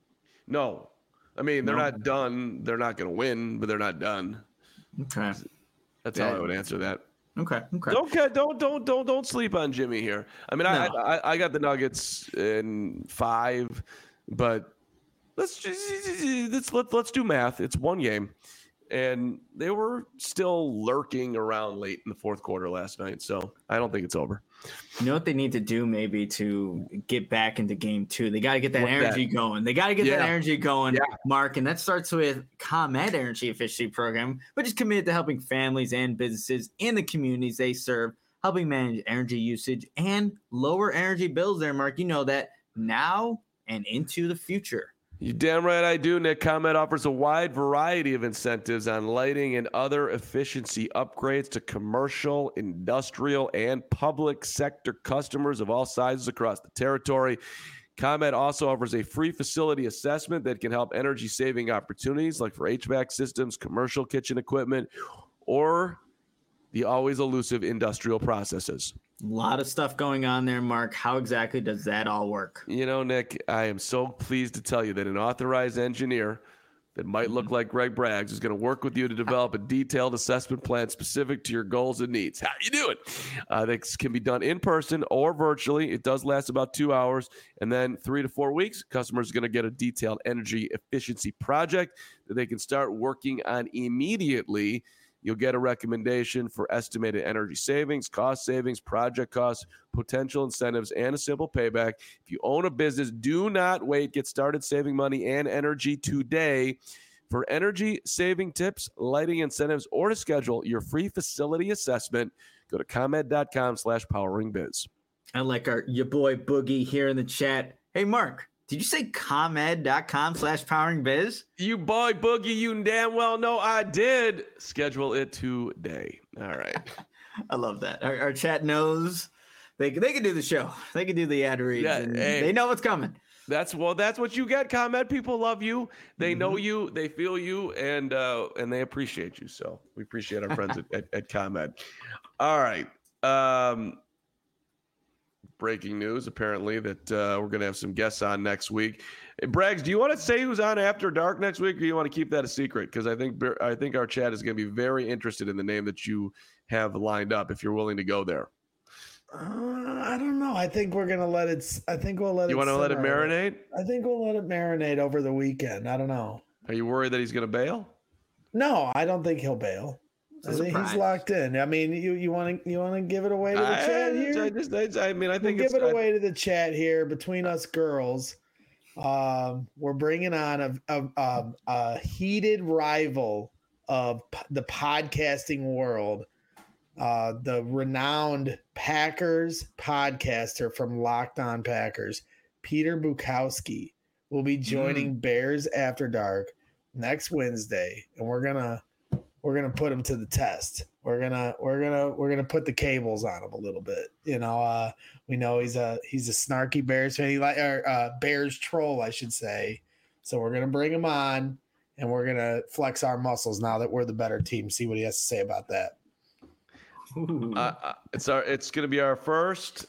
Speaker 1: No. I mean, they're
Speaker 3: No.
Speaker 1: not done. They're not going to win, but they're not done.
Speaker 3: Okay.
Speaker 1: That's
Speaker 3: Yeah.
Speaker 1: how I would answer that.
Speaker 3: Okay. Okay.
Speaker 1: Don't ca- don't don't don't don't sleep on Jimmy here. I mean, I,
Speaker 3: No.
Speaker 1: I I got the Nuggets in five, but let's just let's let, let's do math. It's one game, and they were still lurking around late in the fourth quarter last night. So I don't think it's over.
Speaker 3: You know what they need to do maybe to get back into game two? They got to get that
Speaker 1: What's
Speaker 3: energy going. They got to get
Speaker 1: Yeah.
Speaker 3: that energy going,
Speaker 1: Yeah.
Speaker 3: Mark. And that starts with ComEd Energy Efficiency Program, which is committed to helping families and businesses in the communities they serve, helping manage energy usage and lower energy bills there, Mark. You know that now and into the future.
Speaker 1: You damn right I do, Nick. ComEd offers a wide variety of incentives on lighting and other efficiency upgrades to commercial, industrial, and public sector customers of all sizes across the territory. ComEd also offers a free facility assessment that can help energy saving opportunities like for H V A C systems, commercial kitchen equipment, or the always elusive industrial processes.
Speaker 3: A lot of stuff going on there, Mark. How exactly does that all work?
Speaker 1: You know, Nick, I am so pleased to tell you that an authorized engineer that might look like Greg Braggs is going to work with you to develop a detailed assessment plan specific to your goals and needs. How you doing? Uh, this can be done in person or virtually. It does last about two hours. And then three to four weeks, customers are going to get a detailed energy efficiency project that they can start working on immediately. You'll get a recommendation for estimated energy savings, cost savings, project costs, potential incentives, and a simple payback. If you own a business, do not wait. Get started saving money and energy today. For energy saving tips, lighting incentives, or to schedule your free facility assessment, go to ComEd.com slash powering biz.
Speaker 3: I like our your boy Boogie here in the chat. Hey, Mark, did you say ComEd.com slash powering biz?
Speaker 1: You boy Boogie, you damn well know I did. Schedule it today. All right.
Speaker 3: I love that. Our, our chat knows they, they can do the show. They can do the ad reads.
Speaker 1: Yeah,
Speaker 3: and
Speaker 1: hey.
Speaker 3: They know what's coming.
Speaker 1: That's well. That's what you get. ComEd people love you. They
Speaker 3: Mm-hmm.
Speaker 1: know you. They feel you, and uh, and they appreciate you. So we appreciate our friends at, at, at ComEd. All right. Um, breaking news: apparently that uh, we're going to have some guests on next week. Hey, Braggs, do you want to say who's on After Dark next week, or do you want to keep that a secret? Because I think I think our chat is going to be very interested in the name that you have lined up. If you're willing to go there,
Speaker 2: Uh, I don't know. I think we're gonna let it. s- I think we'll let it.
Speaker 1: you want to let it
Speaker 2: simmer.
Speaker 1: marinate?
Speaker 2: I think we'll let it marinate over the weekend. I don't know.
Speaker 1: Are you worried that he's going to bail?
Speaker 2: No, I don't think he'll bail.
Speaker 3: It's a
Speaker 2: I think
Speaker 3: surprise.
Speaker 2: he's locked in. I mean, you you want to you want to give it away to the
Speaker 1: I,
Speaker 2: chat
Speaker 1: I
Speaker 2: here?
Speaker 1: just, I, I mean, I
Speaker 2: We'll
Speaker 1: think
Speaker 2: give
Speaker 1: it's,
Speaker 2: it
Speaker 1: I-
Speaker 2: away to the chat here between us girls. Um, we're bringing on a, a, a, a heated rival of p- the podcasting world, uh, the renowned Packers podcaster from Locked On Packers, Peter Bukowski, will be joining mm. Bears After Dark next Wednesday, and we're gonna we're gonna put him to the test. We're gonna we're gonna we're gonna put the cables on him a little bit. You know, uh, we know he's a he's a snarky Bears fan, he like or uh, Bears troll, I should say. So we're gonna bring him on, and we're gonna flex our muscles now that we're the better team. See what he has to say about that.
Speaker 1: Uh, it's our it's gonna be our first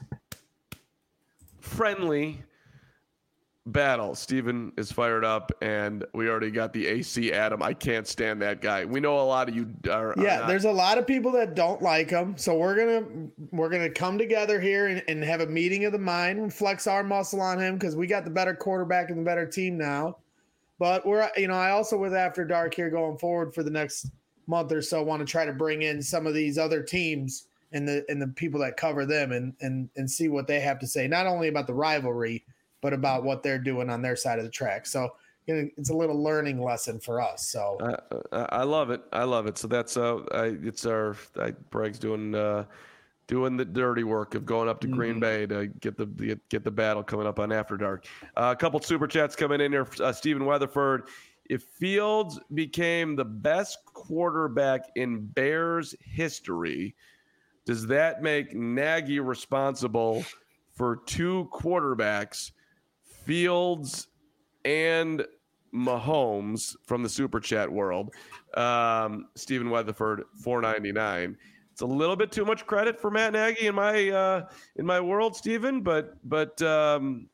Speaker 1: friendly battle. Steven is fired up, and we already got the A C Adam. I can't stand that guy. We know a lot of you are.
Speaker 2: Yeah,
Speaker 1: are not-
Speaker 2: there's a lot of people that don't like him. So we're gonna we're gonna come together here and, and have a meeting of the mind and flex our muscle on him because we got the better quarterback and the better team now. But we're you know I also with After Dark here going forward for the next month or so want to try to bring in some of these other teams and the and the people that cover them and and and see what they have to say, not only about the rivalry, but about what they're doing on their side of the track. So you know, it's a little learning lesson for us. So
Speaker 1: uh, I love it. I love it. So that's uh, I, it's our I, Bragg's doing uh, doing the dirty work of going up to mm-hmm. Green Bay to get the get, get the battle coming up on After Dark. Uh, a couple super chats coming in here. Uh, Stephen Weatherford, if Fields became the best quarterback in Bears history, does that make Nagy responsible for two quarterbacks, Fields and Mahomes, from the Super Chat world? Um, Stephen Weatherford, four ninety-nine. It's a little bit too much credit for Matt Nagy in my uh, in my world, Stephen, but but um,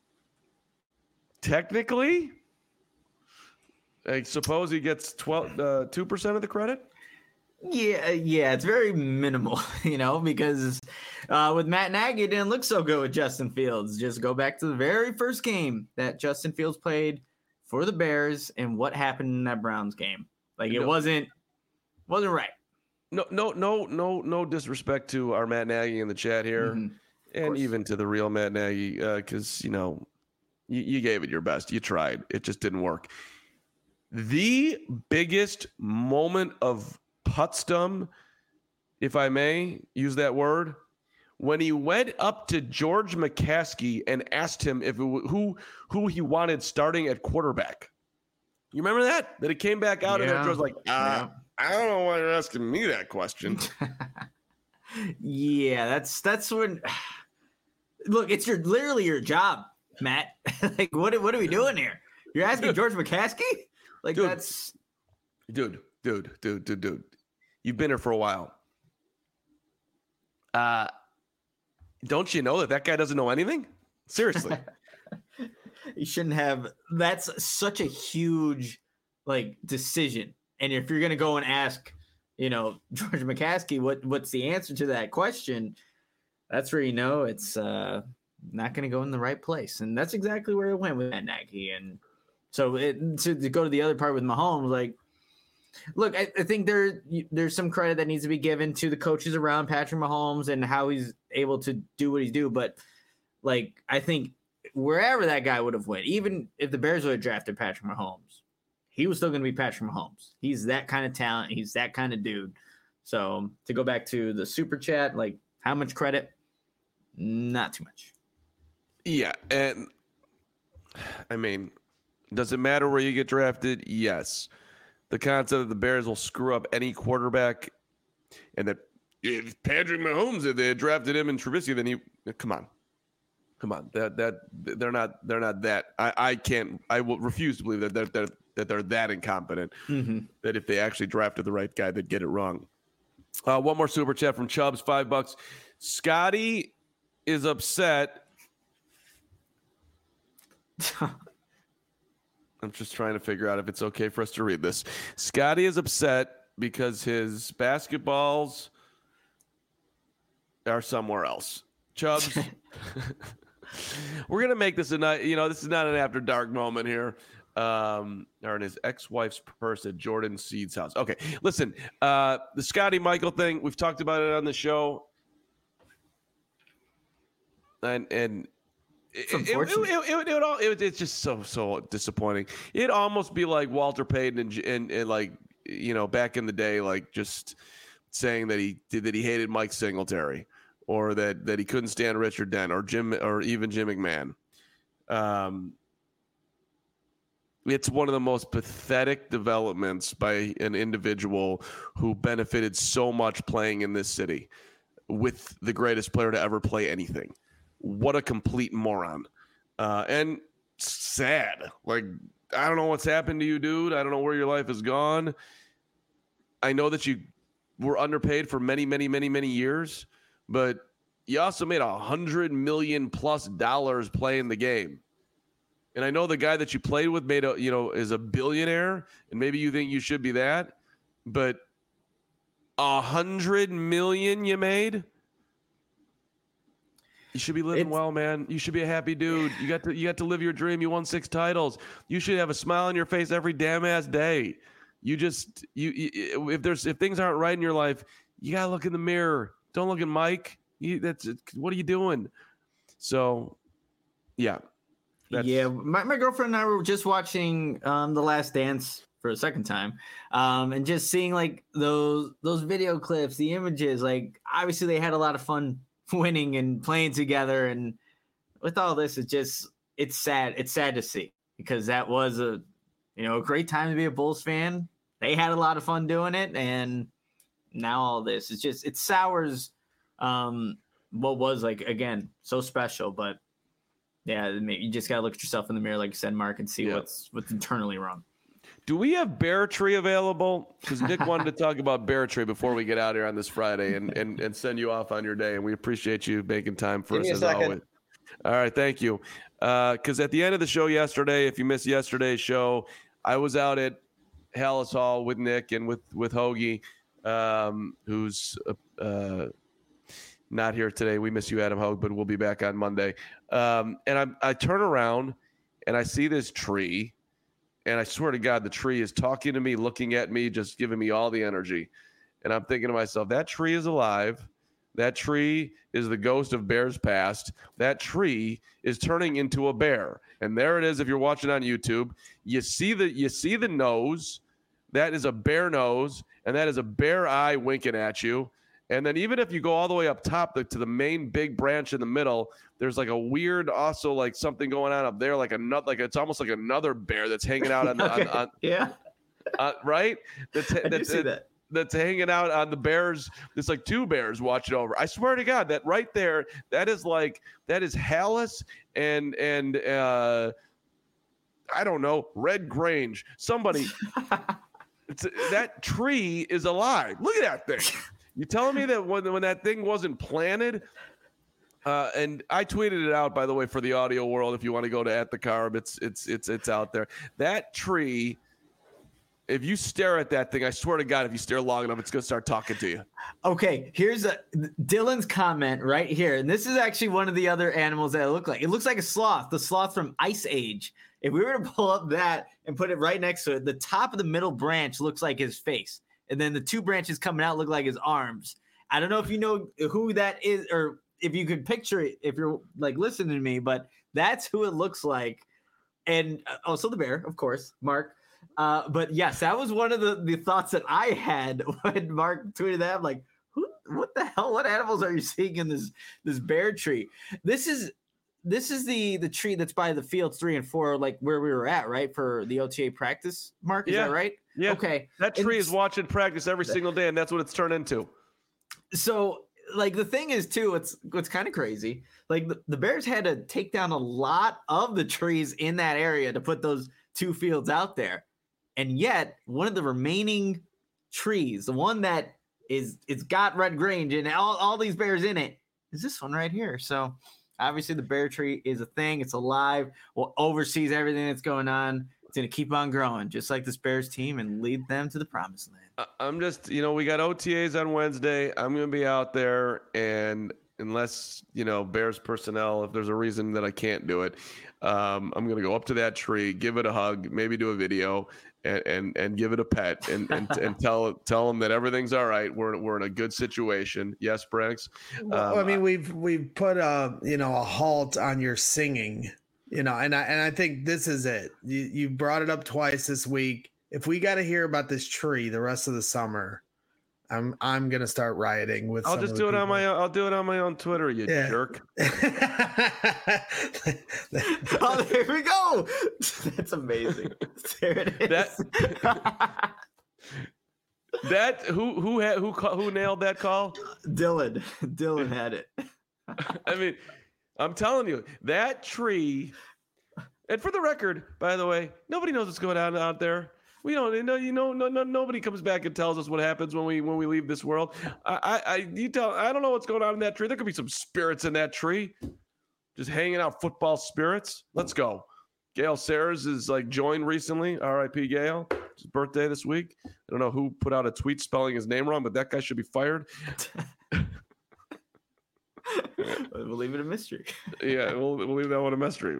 Speaker 1: technically, I suppose he gets twelve, uh, two percent of the credit.
Speaker 3: Yeah, yeah, it's very minimal, you know, because uh, with Matt Nagy, it didn't look so good with Justin Fields. Just go back to the very first game that Justin Fields played for the Bears and what happened in that Browns game. Like, it no, wasn't wasn't right.
Speaker 1: No, no, no, no, no disrespect to our Matt Nagy in the chat here, mm-hmm. and even to the real Matt Nagy, because, uh, you know, you, you gave it your best. You tried. It just didn't work. The biggest moment of putsdom, if I may use that word, when he went up to George McCaskey and asked him if it w- who who he wanted starting at quarterback. You remember that? That it came back out, yeah. and George was like, uh, yeah. I don't know why you're asking me that question.
Speaker 3: yeah, that's that's when. Look, it's your literally your job, Matt. Like, what what are we doing here? You're asking George McCaskey? Like,
Speaker 1: dude,
Speaker 3: that's
Speaker 1: dude, dude, dude, dude, dude. You've been here for a while. Uh, don't you know that that guy doesn't know anything? Seriously.
Speaker 3: You shouldn't have. That's such a huge, like, decision. And if you're going to go and ask, you know, George McCaskey, what what's the answer to that question, that's where you know it's uh, not going to go in the right place. And that's exactly where it went with Matt Nagy. And so it, to, to go to the other part with Mahomes, like, look, I, I think there there's some credit that needs to be given to the coaches around Patrick Mahomes and how he's able to do what he's do. But, like, I think wherever that guy would have went, even if the Bears would have drafted Patrick Mahomes, he was still going to be Patrick Mahomes. He's that kind of talent. He's that kind of dude. So to go back to the super chat, like, how much credit? Not too much.
Speaker 1: Yeah. And I mean, does it matter where you get drafted? Yes. The concept that the Bears will screw up any quarterback, and that if Patrick Mahomes, if they had drafted him in Trubisky, then he come on. Come on. That that they're not they're not that. I, I can't I will refuse to believe that they're, they're that they're that incompetent, mm-hmm. that if they actually drafted the right guy, they'd get it wrong. Uh, one more super chat from Chubbs, five bucks. Scotty is upset. I'm just trying to figure out if it's okay for us to read this. Scotty is upset because his basketballs are somewhere else. Chubbs, we're going to make this a night. You know, this is not an after dark moment here. Um, or in his ex-wife's purse at Jordan Seed's house. Okay, listen, uh, the Scotty Michael thing, we've talked about it on the show. And, and
Speaker 3: It's
Speaker 1: it, it,
Speaker 3: unfortunate.
Speaker 1: it, it, it, it, all, it, it's just so so disappointing. It'd almost be like Walter Payton and, and and like you know back in the day, like just saying that he did that he hated Mike Singletary, or that that he couldn't stand Richard Dent, or Jim, or even Jim McMahon. Um, it's one of the most pathetic developments by an individual who benefited so much playing in this city with the greatest player to ever play anything. What a complete moron. Uh, and sad. Like, I don't know what's happened to you, dude. I don't know where your life has gone. I know that you were underpaid for many, many, many, many years, but you also made a hundred million plus dollars playing the game. And I know the guy that you played with made a, you know, is a billionaire, and maybe you think you should be that, but a hundred million you made. You should be living
Speaker 3: It's,
Speaker 1: well, man. You should be a happy dude. You got to, you got to live your dream. You won six titles. You should have a smile on your face every damn ass day. You just, you, you if there's, if things aren't right in your life, you gotta look in the mirror. Don't look at Mike. You, that's, what are you doing? So, yeah.
Speaker 3: That's... Yeah, my, my girlfriend and I were just watching um, The Last Dance for a second time, um, and just seeing like those those video clips, the images. Like, obviously, they had a lot of fun winning and playing together, and with all this, it just it's sad. It's sad to see, because that was a you know a great time to be a Bulls fan. They had a lot of fun doing it, and now all this it's just it sours um, what was like again so special, but. Yeah, you just gotta look at yourself in the mirror, like you said, Mark, and see yeah. what's what's internally wrong.
Speaker 1: Do we have Bear Tree available? Because Nick wanted to talk about Bear Tree before we get out here on this Friday, and and and send you off on your day. And we appreciate you making time for
Speaker 4: Give
Speaker 1: us as always. All right, thank you. Because uh, at the end of the show yesterday, if you missed yesterday's show, I was out at Hallis Hall with Nick and with with Hoagie, um, who's. Uh, Not here today. We miss you, Adam Hogue, but we'll be back on Monday. Um, and I, I turn around and I see this tree, and I swear to God, the tree is talking to me, looking at me, just giving me all the energy. And I'm thinking to myself, that tree is alive. That tree is the ghost of bears past. That tree is turning into a bear. And there it is. If you're watching on YouTube, you see the you see the nose. That is a bear nose, and that is a bear eye winking at you. And then even if you go all the way up top the, to the main big branch in the middle, there's like a weird, also like something going on up there, like another, like it's almost like another bear that's hanging out on the,
Speaker 3: okay.
Speaker 1: on, on,
Speaker 3: yeah,
Speaker 1: uh, right? That's
Speaker 3: I
Speaker 1: that's
Speaker 3: do see that.
Speaker 1: That's hanging out on the bears. There's like two bears watching over. I swear to God, that right there, that is like that is Hallis and and uh, I don't know, Red Grange. Somebody, it's, that tree is alive. Look at that thing. You telling me that when when that thing wasn't planted, uh, and I tweeted it out, by the way, for the audio world. If you want to go to at the Carb, it's it's it's it's out there. That tree, if you stare at that thing, I swear to God, if you stare long enough, it's gonna start talking to you.
Speaker 3: Okay, here's a Dylan's comment right here, and this is actually one of the other animals that it look like. It looks like a sloth, the sloth from Ice Age. If we were to pull up that and put it right next to it, the top of the middle branch looks like his face. And then the two branches coming out look like his arms. I don't know if you know who that is, or if you could picture it, if you're like listening to me, but that's who it looks like. And uh, also the bear, of course, Mark. Uh, but yes, that was one of the, the thoughts that I had when Mark tweeted that. I'm like, who, what the hell? What animals are you seeing in this, this bear tree? This is, this is the, the tree that's by the fields three and four, like where we were at, right? For the O T A practice, Mark, is
Speaker 1: yeah.
Speaker 3: that right?
Speaker 1: Yeah.
Speaker 3: Okay.
Speaker 1: That tree is watching practice every single day, and that's what it's turned into.
Speaker 3: So, like, the thing is, too, it's what's kind of crazy. Like, the, the Bears had to take down a lot of the trees in that area to put those two fields out there. And yet, one of the remaining trees, the one that is, it's got Red Grange and all, all these bears in it, is this one right here. So, obviously, the bear tree is a thing. It's alive. Well, oversees everything that's going on. It's going to keep on growing, just like this Bears team, and lead them to the promised land.
Speaker 1: I'm just, you know, we got O T As on Wednesday. I'm going to be out there, and unless, you know, Bears personnel, if there's a reason that I can't do it, um, I'm going to go up to that tree, give it a hug, maybe do a video and, and, and give it a pet and, and, and tell, tell them that everything's all right. We're, we're in a good situation. Yes, Braggs.
Speaker 2: Well,
Speaker 1: Um,
Speaker 2: I mean, we've, we've put a, you know, a halt on your singing, you know, and I, and I think this is it. You, you brought it up twice this week. If we got to hear about this tree the rest of the summer, I'm I'm gonna start rioting with.
Speaker 1: I'll
Speaker 2: some
Speaker 1: just
Speaker 2: of
Speaker 1: do
Speaker 2: the
Speaker 1: it on
Speaker 2: people.
Speaker 1: my I'll do it on my own Twitter, you
Speaker 2: Yeah.
Speaker 1: jerk.
Speaker 3: Oh, there we go. That's amazing. There it is.
Speaker 1: That that who who had who ca- who nailed that call?
Speaker 3: Dylan. Dylan had it.
Speaker 1: I mean, I'm telling you, that tree. And for the record, by the way, nobody knows what's going on out there. We don't you know, you know, no, no, nobody comes back and tells us what happens when we when we leave this world. I, I, I, you tell, I don't know what's going on in that tree. There could be some spirits in that tree, just hanging out, football spirits. Let's go. Gail Sayers is like joined recently. R I P Gail. It's his birthday this week. I don't know who put out a tweet spelling his name wrong, but that guy should be fired.
Speaker 3: We'll leave it a mystery.
Speaker 1: Yeah, we'll, we'll leave that one a mystery.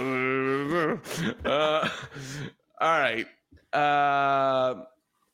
Speaker 1: Uh, all right. Uh,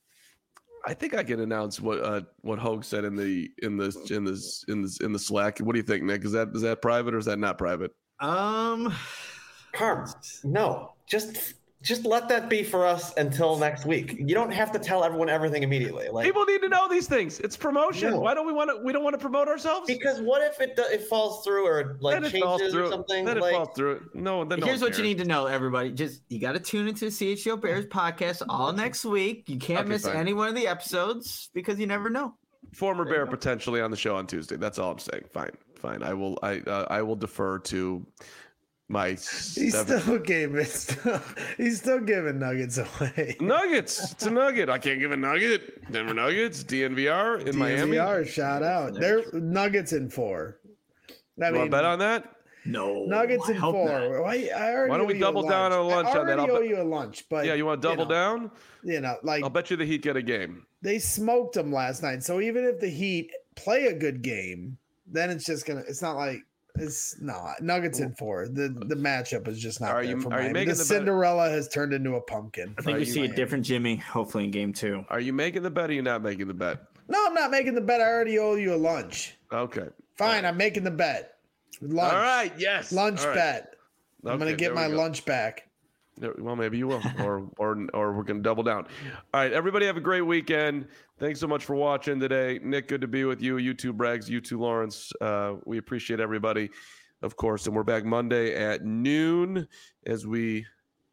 Speaker 1: I think I can announce what uh, what Hogue said in the in the in the in the in the Slack. What do you think, Nick? Is that is that private or is that not private?
Speaker 3: Um,
Speaker 4: Carm, no, just just let that be for us until next week. You don't have to tell everyone everything immediately. Like
Speaker 1: People need to know these things. It's promotion.
Speaker 4: No.
Speaker 1: Why don't we want to? We don't want to promote ourselves.
Speaker 4: because what if it do- it falls through or like
Speaker 1: Then it falls
Speaker 4: changes
Speaker 1: through.
Speaker 4: or something?
Speaker 1: Then it
Speaker 4: like,
Speaker 1: falls through. No, then no
Speaker 3: here's
Speaker 1: one
Speaker 3: what you
Speaker 1: cares.
Speaker 3: need to know, everybody. Just you got to tune into the C H G O Bears podcast all next week. You can't
Speaker 1: Okay,
Speaker 3: miss
Speaker 1: fine.
Speaker 3: any one of the episodes because you never know.
Speaker 1: Former
Speaker 3: There you
Speaker 1: Bear
Speaker 3: go.
Speaker 1: potentially on the show on Tuesday. That's all I'm saying. Fine, fine. I will. I uh, I will defer to my
Speaker 2: He's
Speaker 1: seven-
Speaker 2: still giving. Still, he's still giving nuggets away.
Speaker 1: Nuggets. It's a nugget. I can't give a nugget. Denver Nuggets, D N V R in Miami.
Speaker 2: D N V R, shout out. They're nuggets in four. I
Speaker 1: You want
Speaker 2: mean,
Speaker 1: to bet on that?
Speaker 3: No,
Speaker 2: nuggets
Speaker 3: I
Speaker 2: in
Speaker 3: hope
Speaker 2: four.
Speaker 3: not.
Speaker 2: Why, I already
Speaker 1: Why don't
Speaker 2: owe
Speaker 1: we
Speaker 2: you a
Speaker 1: double down on lunch
Speaker 2: I
Speaker 1: on that?
Speaker 2: already
Speaker 1: I'll
Speaker 2: owe
Speaker 1: bet-
Speaker 2: you a lunch, but
Speaker 1: Yeah, you want to double
Speaker 2: know,
Speaker 1: down?
Speaker 2: You know, like
Speaker 1: I'll bet you the Heat get a game.
Speaker 2: they smoked them last night. So even if the Heat play a good game, then it's just gonna. It's not like it's not Nuggets in four. The the matchup is just not
Speaker 1: Are
Speaker 2: there
Speaker 1: you-
Speaker 2: for
Speaker 1: are you
Speaker 2: Miami.
Speaker 1: making
Speaker 2: The
Speaker 1: the bet-
Speaker 2: Cinderella has turned into a pumpkin.
Speaker 3: I think
Speaker 1: Are
Speaker 3: we
Speaker 1: you-
Speaker 3: see a different Jimmy, hopefully in game two.
Speaker 1: Are you making the bet or are you not making the bet?
Speaker 2: No, I'm not making the bet. I already owe you a lunch.
Speaker 1: Okay.
Speaker 2: Fine, I'm making the bet. Lunch.
Speaker 1: All right. Yes.
Speaker 2: Lunch
Speaker 1: All right.
Speaker 2: bet. I'm gonna
Speaker 1: Okay,
Speaker 2: get
Speaker 1: there we
Speaker 2: my
Speaker 1: go.
Speaker 2: lunch back.
Speaker 1: There- Well, maybe you will, or or or we're gonna double down. All right, everybody, have a great weekend. Thanks so much for watching today, Nick. Good to be with you. You too, Braggs. You too, Lawrence. Uh, we appreciate everybody, of course, and we're back Monday at noon as we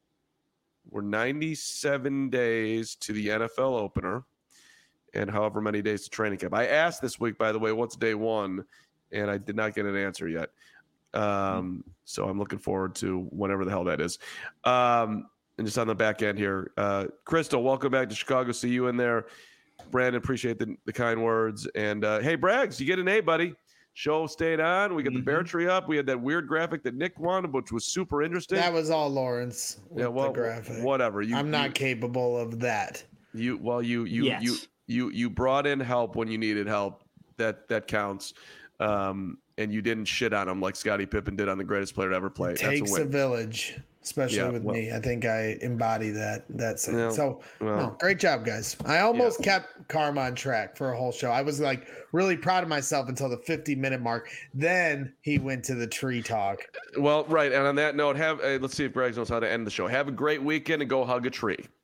Speaker 1: we're ninety-seven days to the N F L opener, and however many days to training camp. I asked this week, by the way, what's day one, and I did not get an answer yet. Um, so I'm looking forward to whenever the hell that is. Um, and just on the back end here, uh, Crystal, welcome back to Chicago. See you in there. Brandon, appreciate the, the kind words. And uh, hey, Braggs, you get an A, buddy. Show stayed on. We got the bear tree up. We had that weird graphic that Nick wanted, which was super interesting.
Speaker 2: That was all Lawrence. With
Speaker 1: yeah, well,
Speaker 2: the graphic.
Speaker 1: whatever. You,
Speaker 2: I'm not
Speaker 1: you,
Speaker 2: capable of that.
Speaker 1: you well, you you
Speaker 3: Yes.
Speaker 1: you you you brought in help when you needed help. That that counts. Um, and you didn't shit on him like Scottie Pippen did on the greatest player to ever play. That's
Speaker 2: Takes
Speaker 1: a
Speaker 2: a
Speaker 1: win.
Speaker 2: village, especially
Speaker 1: Yeah,
Speaker 2: with
Speaker 1: well-
Speaker 2: me. I think I embody that. That's
Speaker 1: Yeah,
Speaker 2: so.
Speaker 1: well.
Speaker 2: no, great job, guys. I almost kept Karma on track for a whole show. I was like really proud of myself until the fifty minute mark. Then he went to the tree talk.
Speaker 1: Well, right. And on that note, have uh, let's see if Greg knows how to end the show. Have a great weekend and go hug a tree.